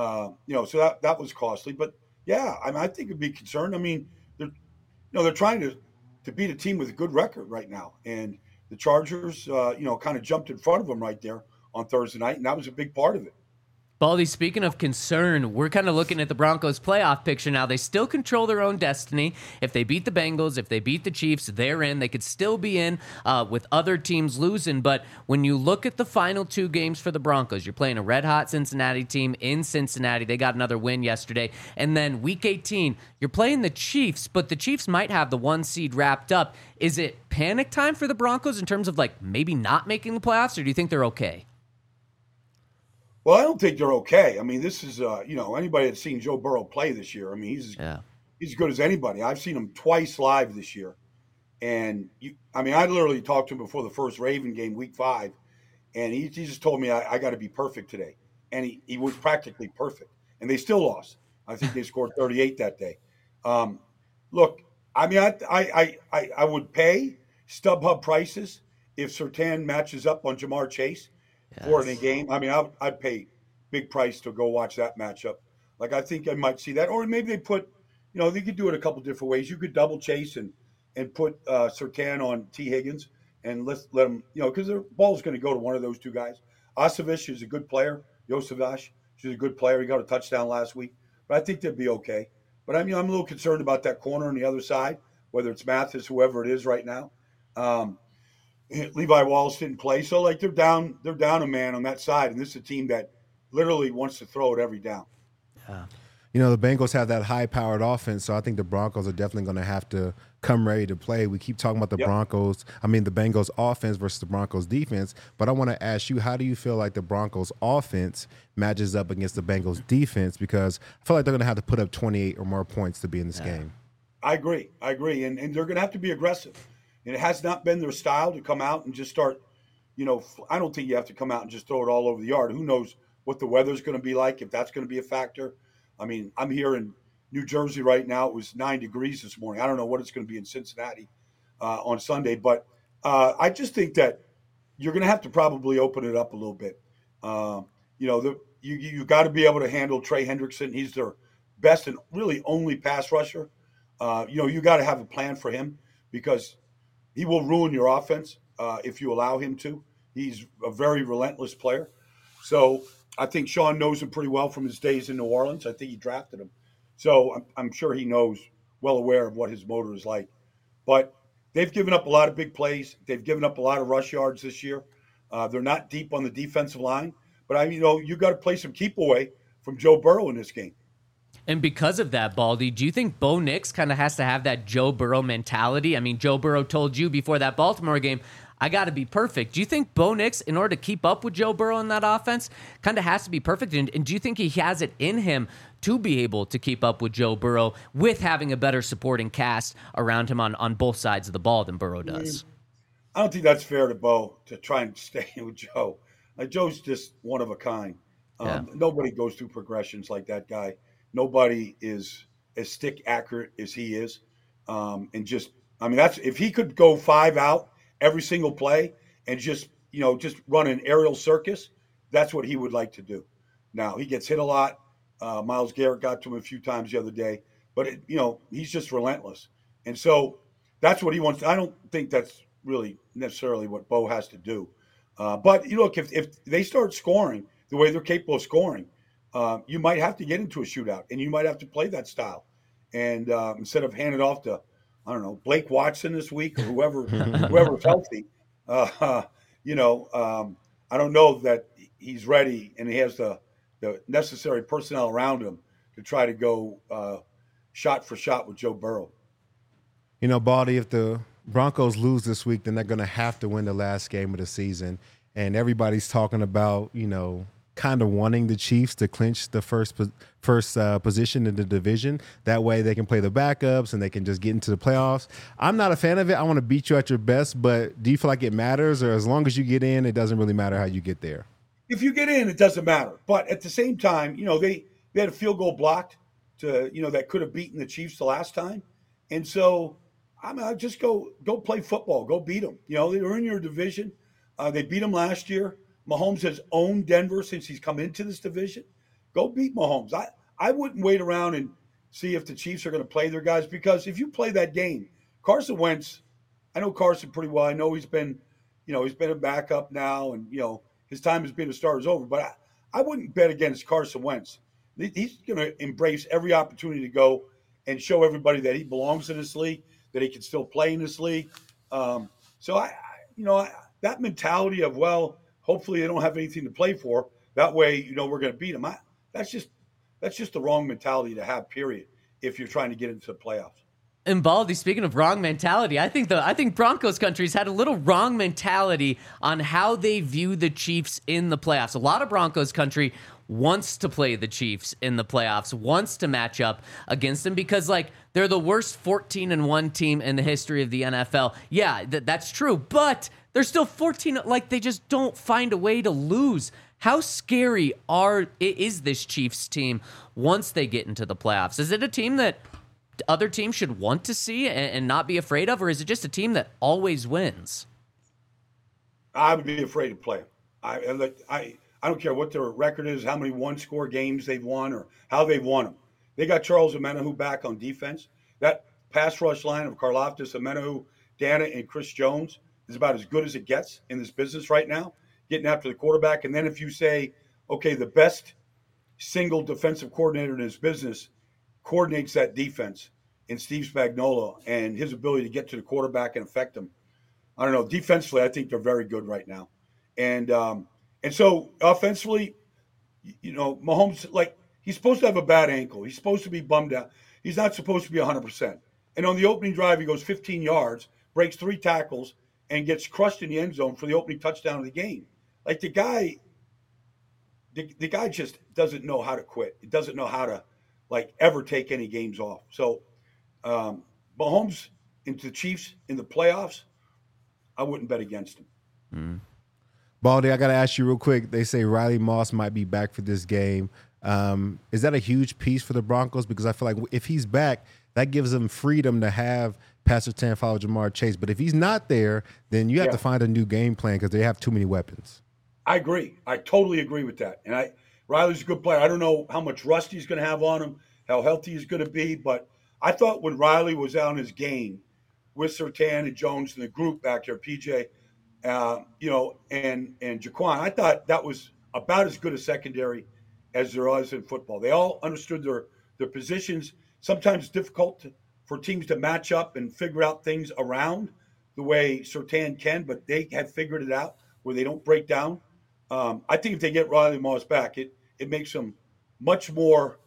So that was costly, but yeah, I mean, I think it'd be concerned. I mean, they're trying to beat a team with a good record right now, and the Chargers kind of jumped in front of them right there on Thursday night, and that was a big part of it. Baldy, speaking of concern, we're kind of looking at the Broncos playoff picture now. They still control their own destiny. If they beat the Bengals, if they beat the Chiefs, they're in. They could still be in with other teams losing. But when you look at the final 2 games for the Broncos, you're playing a red-hot Cincinnati team in Cincinnati. They got another win yesterday. And then Week 18, you're playing the Chiefs, but the Chiefs might have the 1 seed wrapped up. Is it panic time for the Broncos in terms of like maybe not making the playoffs, or do you think they're okay? Well, I don't think they're okay. I mean, this is, anybody that's seen Joe Burrow play this year, I mean, he's as good as anybody. I've seen him twice live this year. And, I literally talked to him before the first Raven game, Week 5, and he just told me, I got to be perfect today. And he was practically perfect. And they still lost. I think they scored 38 that day. Look, I would pay StubHub prices if Surtain matches up on Jamar Chase. For in a game. I'd pay big price to go watch that matchup. Like, I think I might see that. Or maybe they put, they could do it a couple different ways. You could double Chase and put Surtain on T. Higgins and let them, because their ball's going to go to one of those 2 guys. Osavich is a good player. Josavash, she's a good player. He got a touchdown last week. But I think they'd be okay. But I'm a little concerned about that corner on the other side, whether it's Mathis, whoever it is right now. Levi Wallace didn't play, so like they're down a man on that side, and this is a team that literally wants to throw it every down. Yeah. The Bengals have that high-powered offense, so I think the Broncos are definitely going to have to come ready to play. We keep talking about the Bengals offense versus the Broncos defense, but I want to ask you, how do you feel like the Broncos offense matches up against the Bengals defense? Because I feel like they're going to have to put up 28 or more points to be in this game. I agree, and they're going to have to be aggressive. And it has not been their style to come out and just start, I don't think you have to come out and just throw it all over the yard. Who knows what the weather's going to be like, if that's going to be a factor. I'm here in New Jersey right now. It was 9 degrees this morning. I don't know what it's going to be in Cincinnati on Sunday. But I just think that you're going to have to probably open it up a little bit. You've got to be able to handle Trey Hendrickson. He's their best and really only pass rusher. You got to have a plan for him because he will ruin your offense if you allow him to. He's a very relentless player. So I think Sean knows him pretty well from his days in New Orleans. I think he drafted him. So I'm sure he knows, well aware of what his motor is like. But they've given up a lot of big plays. They've given up a lot of rush yards this year. They're not deep on the defensive line. But, you got to play some keep away from Joe Burrow in this game. And because of that, Baldy, do you think Bo Nix kind of has to have that Joe Burrow mentality? Joe Burrow told you before that Baltimore game, I got to be perfect. Do you think Bo Nix, in order to keep up with Joe Burrow in that offense, kind of has to be perfect? And do you think he has it in him to be able to keep up with Joe Burrow with having a better supporting cast around him on both sides of the ball than Burrow does? I don't think that's fair to Bo to try and stay with Joe. Joe's just one of a kind. Nobody goes through progressions like that guy. Nobody is as stick accurate as he is. That's if he could go 5 out every single play and just run an aerial circus, that's what he would like to do. Now, he gets hit a lot. Myles Garrett got to him a few times the other day, but he's just relentless. And so that's what he wants. I don't think that's really necessarily what Bo has to do. But look, if they start scoring the way they're capable of scoring, you might have to get into a shootout, and you might have to play that style. And instead of hand it off to, I don't know, Blake Watson this week or whoever's healthy, I don't know that he's ready and he has the necessary personnel around him to try to go shot for shot with Joe Burrow. Baldy, if the Broncos lose this week, then they're going to have to win the last game of the season. And everybody's talking about, kind of wanting the Chiefs to clinch the first position in the division. That way they can play the backups and they can just get into the playoffs. I'm not a fan of it. I want to beat you at your best, but do you feel like it matters? Or as long as you get in, it doesn't really matter how you get there? If you get in, it doesn't matter. But at the same time, they had a field goal blocked to, that could have beaten the Chiefs the last time. And so just go play football. Go beat them. They're in your division. They beat them last year. Mahomes has owned Denver since he's come into this division. Go beat Mahomes. I wouldn't wait around and see if the Chiefs are going to play their guys, because if you play that game, Carson Wentz, I know Carson pretty well. I know he's been a backup now, and his time as being a starter is over. But I wouldn't bet against Carson Wentz. He's going to embrace every opportunity to go and show everybody that he belongs in this league, that he can still play in this league. So that mentality of, well, hopefully they don't have anything to play for. That way, we're going to beat them. That's just the wrong mentality to have. Period. If you're trying to get into the playoffs. And Baldy, speaking of wrong mentality, I think Broncos country's had a little wrong mentality on how they view the Chiefs in the playoffs. A lot of Broncos country wants to play the Chiefs in the playoffs, wants to match up against them because, like, they're the worst 14-1 team in the history of the NFL. Yeah, that's true, but they're still 14. Like, they just don't find a way to lose. How scary is this Chiefs team once they get into the playoffs? Is it a team that other teams should want to see and not be afraid of, or is it just a team that always wins? I would be afraid to play them. I don't care what their record is, how many one-score games they've won, or how they've won them. They got Charles Omenihu back on defense. That pass rush line of Karlaftis, Omenihu, Dana, and Chris Jones is about as good as it gets in this business right now, getting after the quarterback. And then if you say, okay, the best single defensive coordinator in his business coordinates that defense in Steve Spagnuolo and his ability to get to the quarterback and affect him. I don't know. Defensively, I think they're very good right now. And so offensively, Mahomes, like, he's supposed to have a bad ankle. He's supposed to be bummed out. He's not supposed to be 100%. And on the opening drive, he goes 15 yards, breaks 3 tackles, and gets crushed in the end zone for the opening touchdown of the game. Like, the guy just doesn't know how to quit. He doesn't know how to, like, ever take any games off. So Mahomes into the Chiefs in the playoffs, I wouldn't bet against him. Baldy, I got to ask you real quick. They say Riley Moss might be back for this game. Is that a huge piece for the Broncos? Because I feel like if he's back, that gives them freedom to have Pat Surtain follow Jamar Chase. But if he's not there, then you have to find a new game plan because they have too many weapons. I agree. I totally agree with that. And Riley's a good player. I don't know how much rust he's going to have on him, how healthy he's going to be. But I thought when Riley was on his game with Surtain and Jones and the group back there, PJ, and Jaquan, I thought that was about as good a secondary as there was in football. They all understood their positions. Sometimes difficult for teams to match up and figure out things around the way Surtain can, but they have figured it out where they don't break down. I think if they get Riley Moss back, it makes them much more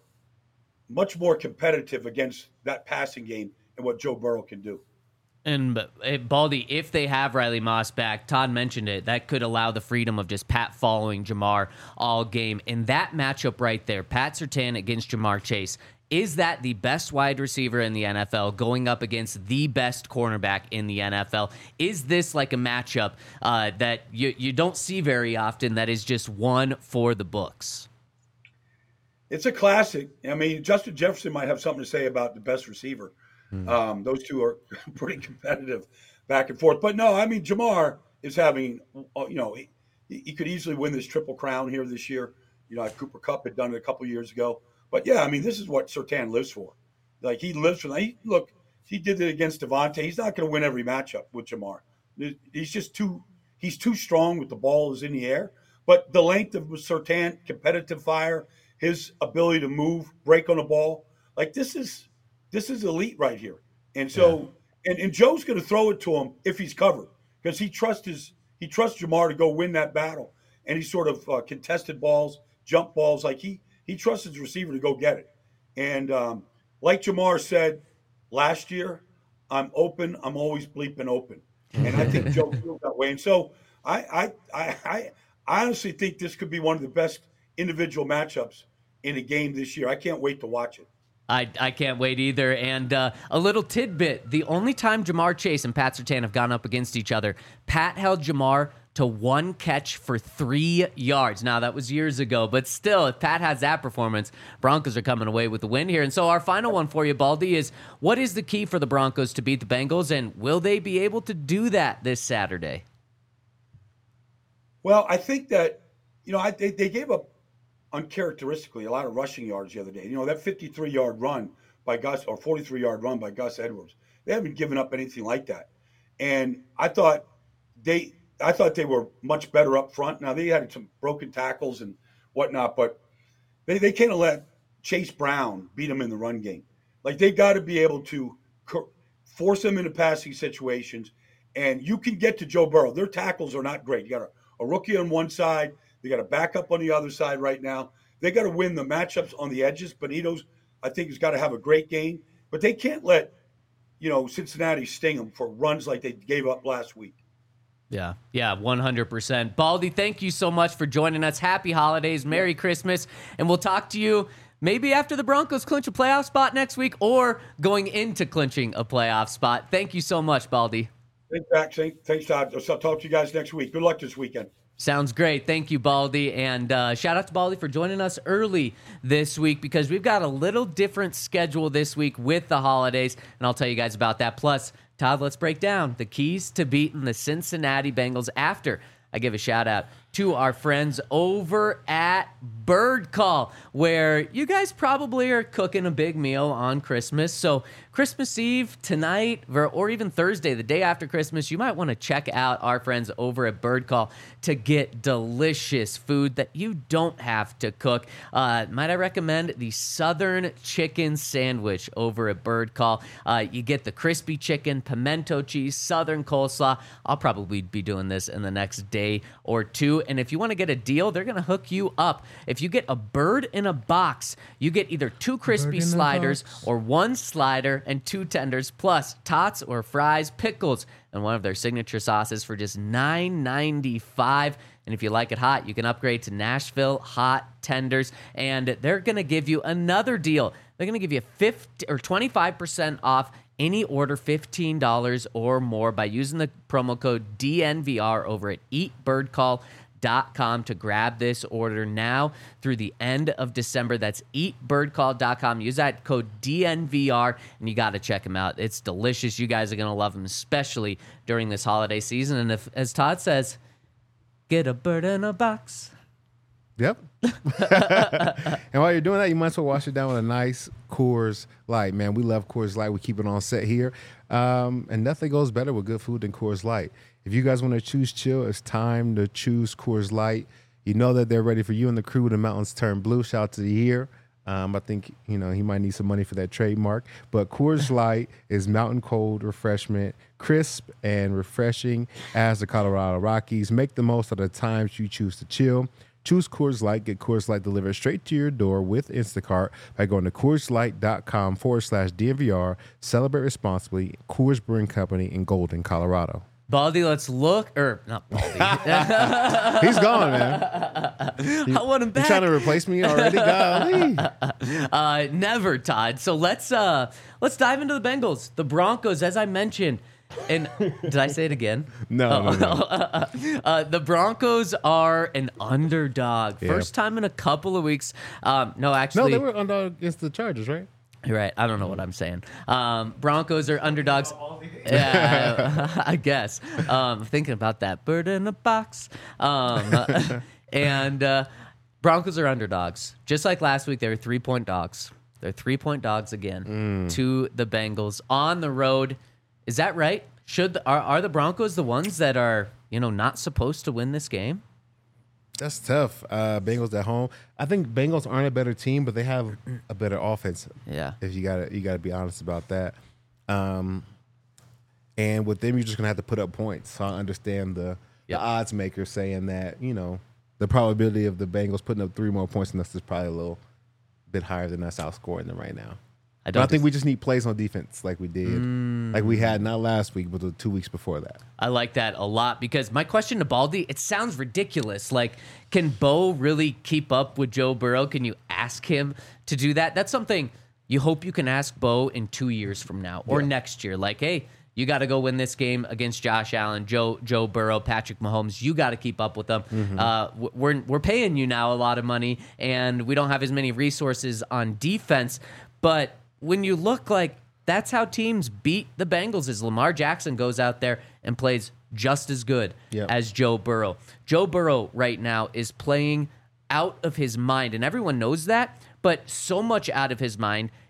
competitive against that passing game and what Joe Burrow can do. And Baldy, if they have Riley Moss back, Todd mentioned it, that could allow the freedom of just Pat following Jamar all game. In that matchup right there, Pat Surtain against Jamar Chase, is that the best wide receiver in the NFL going up against the best cornerback in the NFL? Is this like a matchup that you don't see very often that is just one for the books? It's a classic. I mean, Justin Jefferson might have something to say about the best receiver. Those two are pretty competitive back and forth. But no, I mean, Jamar is having, he could easily win this Triple Crown here this year. Cooper Kupp had done it a couple years ago. But yeah, I mean, this is what Surtain lives for. Like, he lives for that. He did it against Devontae. He's not going to win every matchup with Jamar. He's too strong with the ball is in the air. But the length of Surtain, competitive fire, his ability to move, break on the ball, like, this is elite right here. And so, and Joe's going to throw it to him if he's covered because he trusts Jamar to go win that battle. And he sort of contested balls, jump balls, like he trusts his receiver to go get it. And like Jamar said last year, I'm open. I'm always bleeping open. And I think Joe feels that way. And so I honestly think this could be one of the best individual matchups in a game this year. I can't wait to watch it. I can't wait either. And a little tidbit, the only time Jamar Chase and Pat Surtain have gone up against each other, Pat held Jamar to 1 catch for 3 yards. Now, that was years ago, but still, if Pat has that performance, Broncos are coming away with the win here. And so our final one for you, Baldy, is what is the key for the Broncos to beat the Bengals, and will they be able to do that this Saturday? Well, I think that, they gave up uncharacteristically a lot of rushing yards the other day. That 53-yard run by Gus or 43-yard run by Gus Edwards. They haven't given up anything like that. And I thought they were much better up front. Now, they had some broken tackles and whatnot, but they can't let Chase Brown beat them in the run game. Like, they got to be able to force them into passing situations, and you can get to Joe Burrow. Their tackles are not great. You got a rookie on one side. They got a backup on the other side right now. They got to win the matchups on the edges. Benito's, I think, has got to have a great game, but they can't let, Cincinnati sting them for runs like they gave up last week. Yeah, 100%. Baldy, thank you so much for joining us. Happy holidays, Merry Christmas, and we'll talk to you maybe after the Broncos clinch a playoff spot next week or going into clinching a playoff spot. Thank you so much, Baldy. Thanks, Zach. Thanks, Todd. I'll talk to you guys next week. Good luck this weekend. Sounds great. Thank you, Baldy. And shout out to Baldy for joining us early this week because we've got a little different schedule this week with the holidays, and I'll tell you guys about that. Plus, Todd, let's break down the keys to beating the Cincinnati Bengals after I give a shout out to our friends over at Bird Call, where you guys probably are cooking a big meal on Christmas. So Christmas Eve tonight, or even Thursday, the day after Christmas, you might want to check out our friends over at Bird Call to get delicious food that you don't have to cook. Might I recommend the Southern Chicken Sandwich over at Bird Call. You get the crispy chicken, pimento cheese, Southern coleslaw. I'll probably be doing this in the next day or two. And if you want to get a deal, they're going to hook you up. If you get a bird in a box, you get either 2 crispy sliders or 1 slider and 2 tenders, plus tots or fries, pickles, and one of their signature sauces for just $9.95. And if you like it hot, you can upgrade to Nashville hot tenders. And they're going to give you another deal. They're going to give you 25% off any order $15 or more by using the promo code DNVR over at eatbirdcall.com to grab this order now through the end of December. That's eatbirdcall.com. Use that code DNVR, and you got to check them out. It's delicious. You guys are going to love them, especially during this holiday season. And if, as Todd says, get a bird in a box. Yep. And while you're doing that, you might as well wash it down with a nice Coors Light. Man, we love Coors Light. We keep it on set here. And nothing goes better with good food than Coors Light. If you guys want to choose chill, it's time to choose Coors Light. You know that they're ready for you and the crew when the mountains turn blue. Shout out to the year. I think, he might need some money for that trademark. But Coors Light is mountain cold refreshment, crisp and refreshing as the Colorado Rockies. Make the most of the times you choose to chill. Choose Coors Light. Get Coors Light delivered straight to your door with Instacart by going to CoorsLight.com/DNVR. Celebrate responsibly. Coors Brewing Company in Golden, Colorado. Baldy, let's look. Not Baldy. He's gone, man. I want him back. You trying to replace me already? Golly. Never, Todd. So let's dive into the Bengals. The Broncos, as I mentioned. And did I say it again? No. The Broncos are an underdog. Yeah. First time in a couple of weeks. No, they were underdog against the Chargers, right? You're right. I don't know what I'm saying. Broncos are underdogs. Yeah, I guess. Thinking about that bird in a box. And Broncos are underdogs. Just like last week, they were 3-point dogs. They're 3-point dogs again to the Bengals on the road. Is that right? Are the Broncos the ones that are, not supposed to win this game? That's tough. Bengals at home. I think Bengals aren't a better team, but they have a better offense. Yeah. If you gotta be honest about that. And with them, you're just gonna have to put up points. So I understand the odds maker saying that, the probability of the Bengals putting up 3 more points than us is probably a little bit higher than us outscoring them right now. I think we just need plays on defense like we did. Like we had not last week, but the 2 weeks before that. I like that a lot because my question to Baldy, it sounds ridiculous. Like, can Bo really keep up with Joe Burrow? Can you ask him to do that? That's something you hope you can ask Bo in 2 years from now or next year. Like, hey, you got to go win this game against Josh Allen, Joe Burrow, Patrick Mahomes. You got to keep up with them. We're paying you now a lot of money, and we don't have as many resources on defense. But when you look like that's how teams beat the Bengals is Lamar Jackson goes out there and plays just as good as Joe Burrow. Joe Burrow right now is playing out of his mind, and everyone knows that, but so much out of his mind,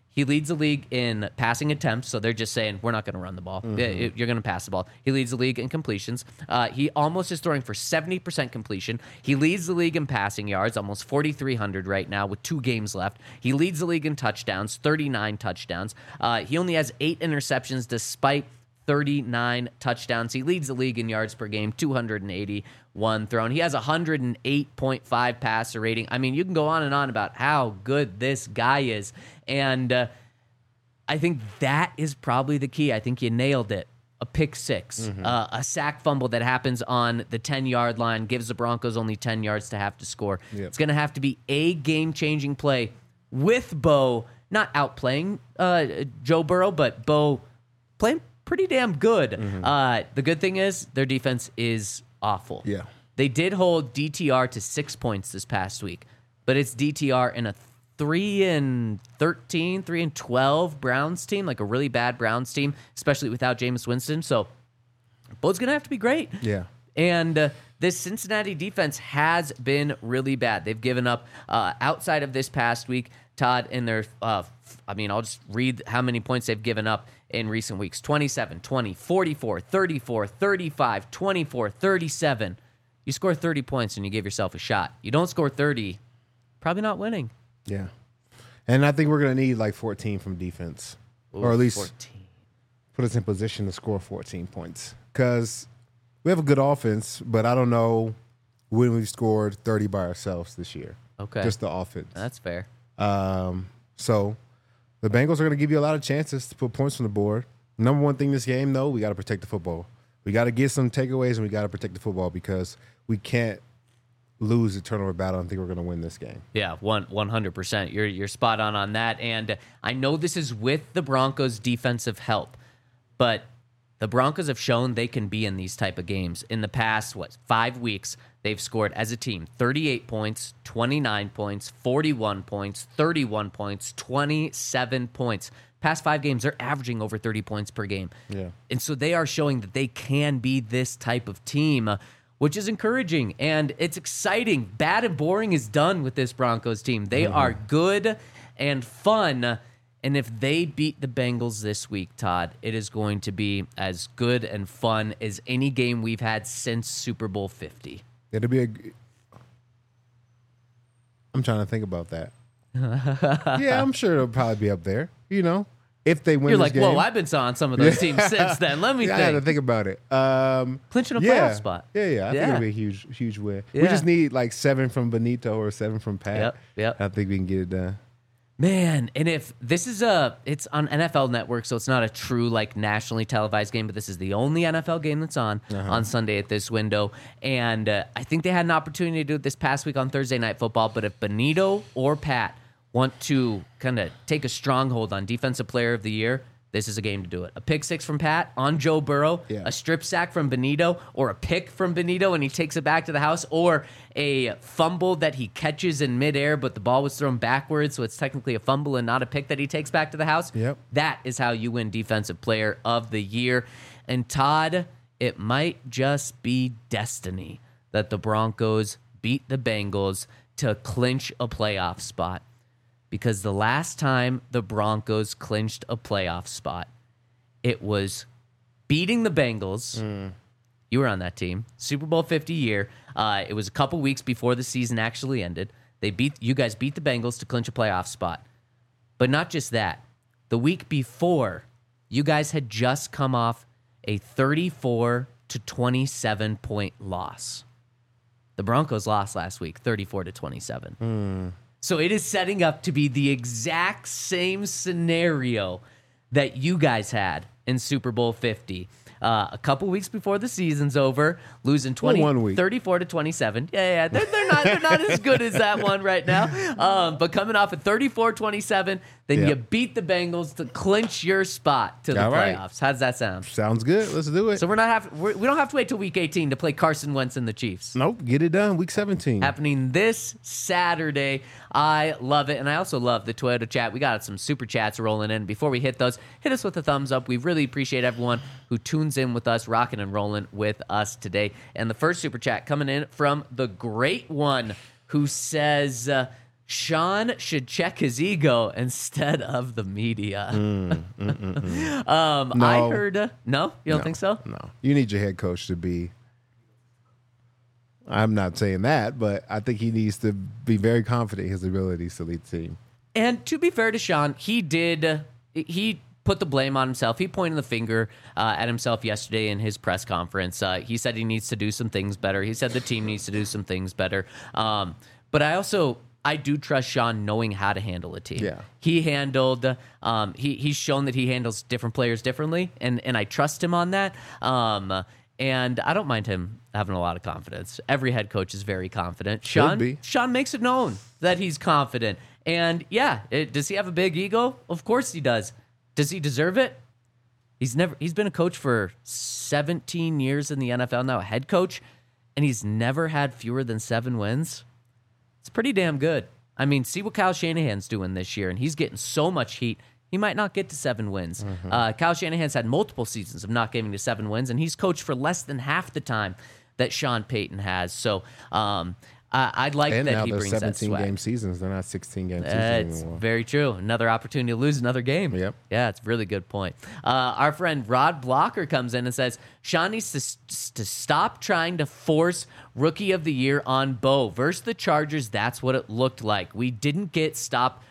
He leads the league in passing attempts, so they're just saying, we're not going to run the ball. You're going to pass the ball. He leads the league in completions. He almost is throwing for 70% completion. He leads the league in passing yards, almost 4,300 right now with 2 games left. He leads the league in touchdowns, 39 touchdowns. He only has 8 interceptions despite 39 touchdowns. He leads the league in yards per game, 281 thrown. He has 108.5 passer rating. I mean, you can go on and on about how good this guy is. And I think that is probably the key. I think you nailed it. A pick six, a sack fumble that happens on the 10-yard line, gives the Broncos only 10 yards to have to score. Yep. It's going to have to be a game-changing play with Bo not outplaying Joe Burrow, but Bo playing pretty damn good. The good thing is their defense is awful. Yeah. They did hold DTR to 6 points this past week, but it's DTR in a 3-13, 3-12 Browns team, like a really bad Browns team, especially without Jameis Winston. So Bo's going to have to be great. Yeah. And this Cincinnati defense has been really bad. They've given up, outside of this past week, Todd, in their, I'll just read how many points they've given up in recent weeks. 27, 20, 44, 34, 35, 24, 37. You score 30 points and you give yourself a shot. You don't score 30, probably not winning. Yeah. And I think we're going to need like 14 from defense. Or at least 14. put us in position to score 14 points. Because we have a good offense, but I don't know when we've scored 30 by ourselves this year. Okay. Just the offense. That's fair. So the Bengals are going to give you a lot of chances to put points on the board. Number one thing this game, though, we got to protect the football. We got to get some takeaways, and we got to protect the football because we can't lose the turnover battle and think we're going to win this game. Yeah, 100%. You're spot on that. And I know this is with the Broncos' defensive help, but the Broncos have shown they can be in these type of games. In the past, 5 weeks, they've scored as a team 38 points, 29 points, 41 points, 31 points, 27 points. Past 5 games, they're averaging over 30 points per game. Yeah. And so they are showing that they can be this type of team, which is encouraging, and it's exciting. Bad and boring is done with this Broncos team. They are good and fun, and if they beat the Bengals this week, Todd, it is going to be as good and fun as any game we've had since Super Bowl 50. It'll be I'm trying to think about that. Yeah, I'm sure it'll probably be up there, if they win You're this like, game. whoa, I've been on some of those teams since then. Let me I had to think. think about it. Clinching a playoff spot. Yeah. I think it'll be a huge win. We Yeah. just need like 7 from Benito or 7 from Pat. Yep. I think we can get it done. Man, and if this is it's on NFL Network, so it's not a true like nationally televised game, but this is the only NFL game that's on Sunday at this window. And I think they had an opportunity to do it this past week on Thursday Night Football, but if Benito or Pat want to kind of take a stronghold on Defensive Player of the Year, this is a game to do it. A pick six from Pat on Joe Burrow, a strip sack from Benito, or a pick from Benito and he takes it back to the house, or a fumble that he catches in midair, but the ball was thrown backwards, so it's technically a fumble and not a pick that he takes back to the house. Yep. That is how you win Defensive Player of the Year. And Todd, it might just be destiny that the Broncos beat the Bengals to clinch a playoff spot. Because the last time the Broncos clinched a playoff spot, it was beating the Bengals. You were on that team. Super Bowl 50 year. It was a couple weeks before the season actually ended. You guys beat the Bengals to clinch a playoff spot. But not just that. The week before, you guys had just come off a 34-27 point loss. The Broncos lost last week, 34-27. So it is setting up to be the exact same scenario that you guys had in Super Bowl 50. A couple weeks before the season's over, losing 34-27. Yeah, they're not as good as that one right now. But coming off at 34-27, then you beat the Bengals to clinch your spot to the playoffs. How does that sound? Sounds good. Let's do it. So we don't have to wait till week 18 to play Carson Wentz and the Chiefs. Nope, get it done. Week 17. Happening this Saturday. I love it. And I also love the Toyota chat. We got some super chats rolling in. Before we hit those, hit us with a thumbs up. We really appreciate everyone who tunes in with us, rocking and rolling with us today. And the first super chat coming in from the great one who says, Sean should check his ego instead of the media. I heard. No, you don't think so? No, you need your head coach to be. I'm not saying that, but I think he needs to be very confident in his abilities to lead the team. And to be fair to Sean, he put the blame on himself. He pointed the finger at himself yesterday in his press conference. He said he needs to do some things better. He said the team needs to do some things better. But I do trust Sean knowing how to handle a team. Yeah. He handled, he's shown that he handles different players differently, and I trust him on that. And I don't mind him having a lot of confidence. Every head coach is very confident. Sean makes it known that he's confident. And yeah, does he have a big ego? Of course he does. Does he deserve it? He's been a coach for 17 years in the NFL now, a head coach, and he's never had fewer than 7 wins. It's pretty damn good. I mean, see what Kyle Shanahan's doing this year, and he's getting so much heat. He might not get to 7 wins. Kyle Shanahan's had multiple seasons of not getting to 7 wins, and he's coached for less than half the time that Sean Payton has. So I'd like and that now he they're brings that 17 swag. game seasons. They're not 16 game seasons It's anymore. very true. Another opportunity to lose another game. Yep. Yeah, it's a really good point. Our friend Rod Blocker comes in and says, Sean needs to stop trying to force Rookie of the Year on Bo. Versus the Chargers, that's what it looked like. We didn't get stop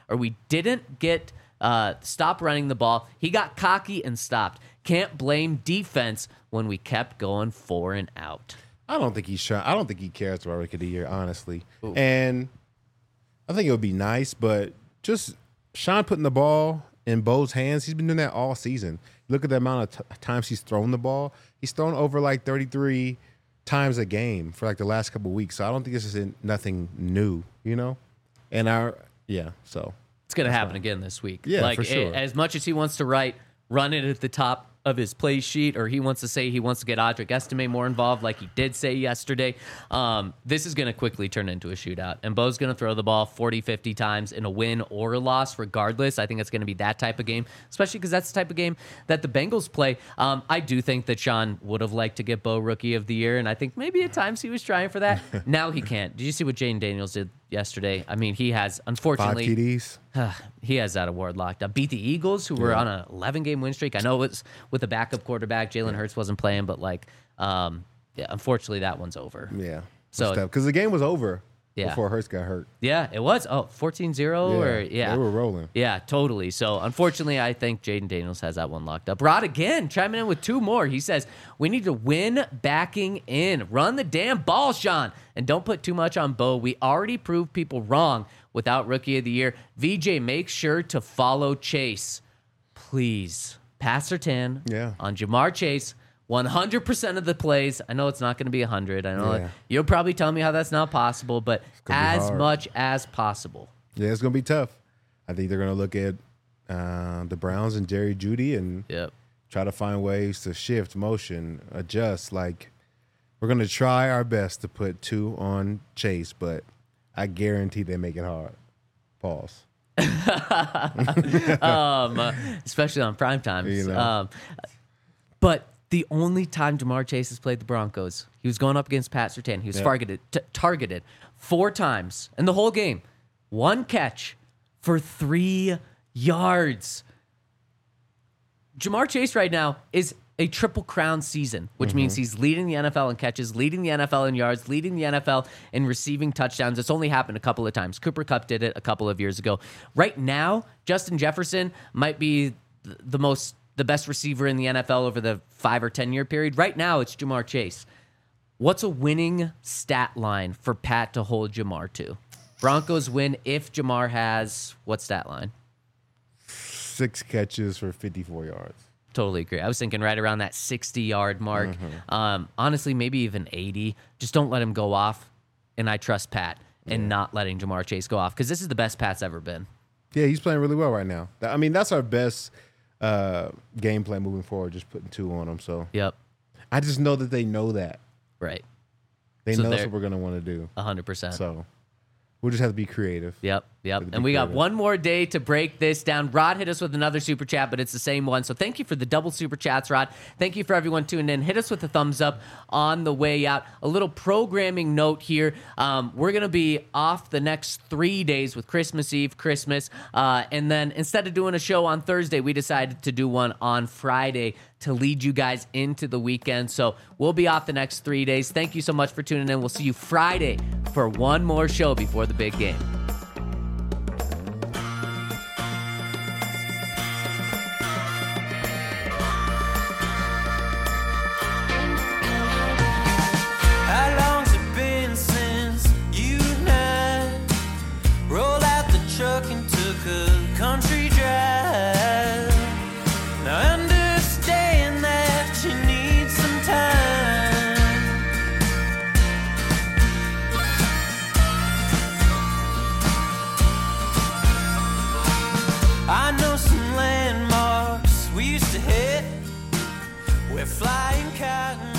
running the ball. He got cocky and stopped. Can't blame defense when we kept going 4 and out. I don't think he's trying. I don't think he cares about Rookie of the Year, honestly. Ooh. And I think it would be nice, but just Sean putting the ball in Bo's hands, he's been doing that all season. Look at the amount of times he's thrown the ball. He's thrown over like 33 times a game for like the last couple of weeks. So I don't think this is nothing new, you know? And so. It's going to happen again this week. Yeah, for sure. As much as he wants to run it at the top of his play sheet, or he wants to say he wants to get Audric Estime more involved like he did say yesterday, this is going to quickly turn into a shootout. And Bo's going to throw the ball 40, 50 times in a win or a loss regardless. I think it's going to be that type of game, especially because that's the type of game that the Bengals play. I do think that Sean would have liked to get Bo Rookie of the Year, and I think maybe at times he was trying for that. Now he can't. Did you see what Jaden Daniels did yesterday? I mean, he has, unfortunately... 5 TDs. He has that award locked up. Beat the Eagles, who were on an 11-game win streak. I know it was with a backup quarterback. Jalen Hurts wasn't playing, but unfortunately, that one's over. Yeah. So because the game was over before Hurts got hurt. Yeah, it was. 14-0 they were rolling. Yeah, totally. So unfortunately, I think Jaden Daniels has that one locked up. Rod again chiming in with 2 more. He says, we need to win backing in. Run the damn ball, Sean. And don't put too much on Bo. We already proved people wrong without Rookie of the Year. VJ, make sure to follow Chase. Please. Pass Surtain on Jamar Chase. 100% of the plays. I know it's not going to be 100. I know you'll probably tell me how that's not possible, but as much as possible. Yeah, it's going to be tough. I think they're going to look at the Browns and Jerry Jeudy and try to find ways to shift, motion, adjust. Like, we're going to try our best to put 2 on Chase, but I guarantee they make it hard. Pause. Especially on prime times. You know. But the only time Jamar Chase has played the Broncos, he was going up against Pat Surtain. He was targeted 4 times in the whole game. 1 catch for 3 yards. Jamar Chase right now is a Triple Crown season, which means he's leading the NFL in catches, leading the NFL in yards, leading the NFL in receiving touchdowns. It's only happened a couple of times. Cooper Kupp did it a couple of years ago. Right now, Justin Jefferson might be the best receiver in the NFL over the 5 or 10 year period. Right now, it's Jamar Chase. What's a winning stat line for Pat to hold Jamar to? Broncos win if Jamar has what stat line? 6 catches for 54 yards. Totally agree. I was thinking right around that 60-yard mark. Honestly, maybe even 80. Just don't let him go off. And I trust Pat in not letting Jamar Chase go off because this is the best Pat's ever been. Yeah, he's playing really well right now. I mean, that's our best game plan moving forward, just putting 2 on him. So I just know that they know that. Right. They know that's what we're going to want to do. 100%. So We'll just have to be creative. Yep. be And we got creative. one more day to break this down. Rod hit us with another super chat, but it's the same one. So thank you for the double super chats, Rod. Thank you for everyone tuning in. Hit us with a thumbs up on the way out. A little programming note here. We're going to be off the next 3 days with Christmas Eve, Christmas. And then instead of doing a show on Thursday, we decided to do one on Friday to lead you guys into the weekend. So we'll be off the next 3 days. Thank you so much for tuning in. We'll see you Friday for one more show before the big game. How long's it been since you and I rolled out the truck and took a country drive? Now I understand that you need some time. I know some landmarks we used to hit. We're flying cotton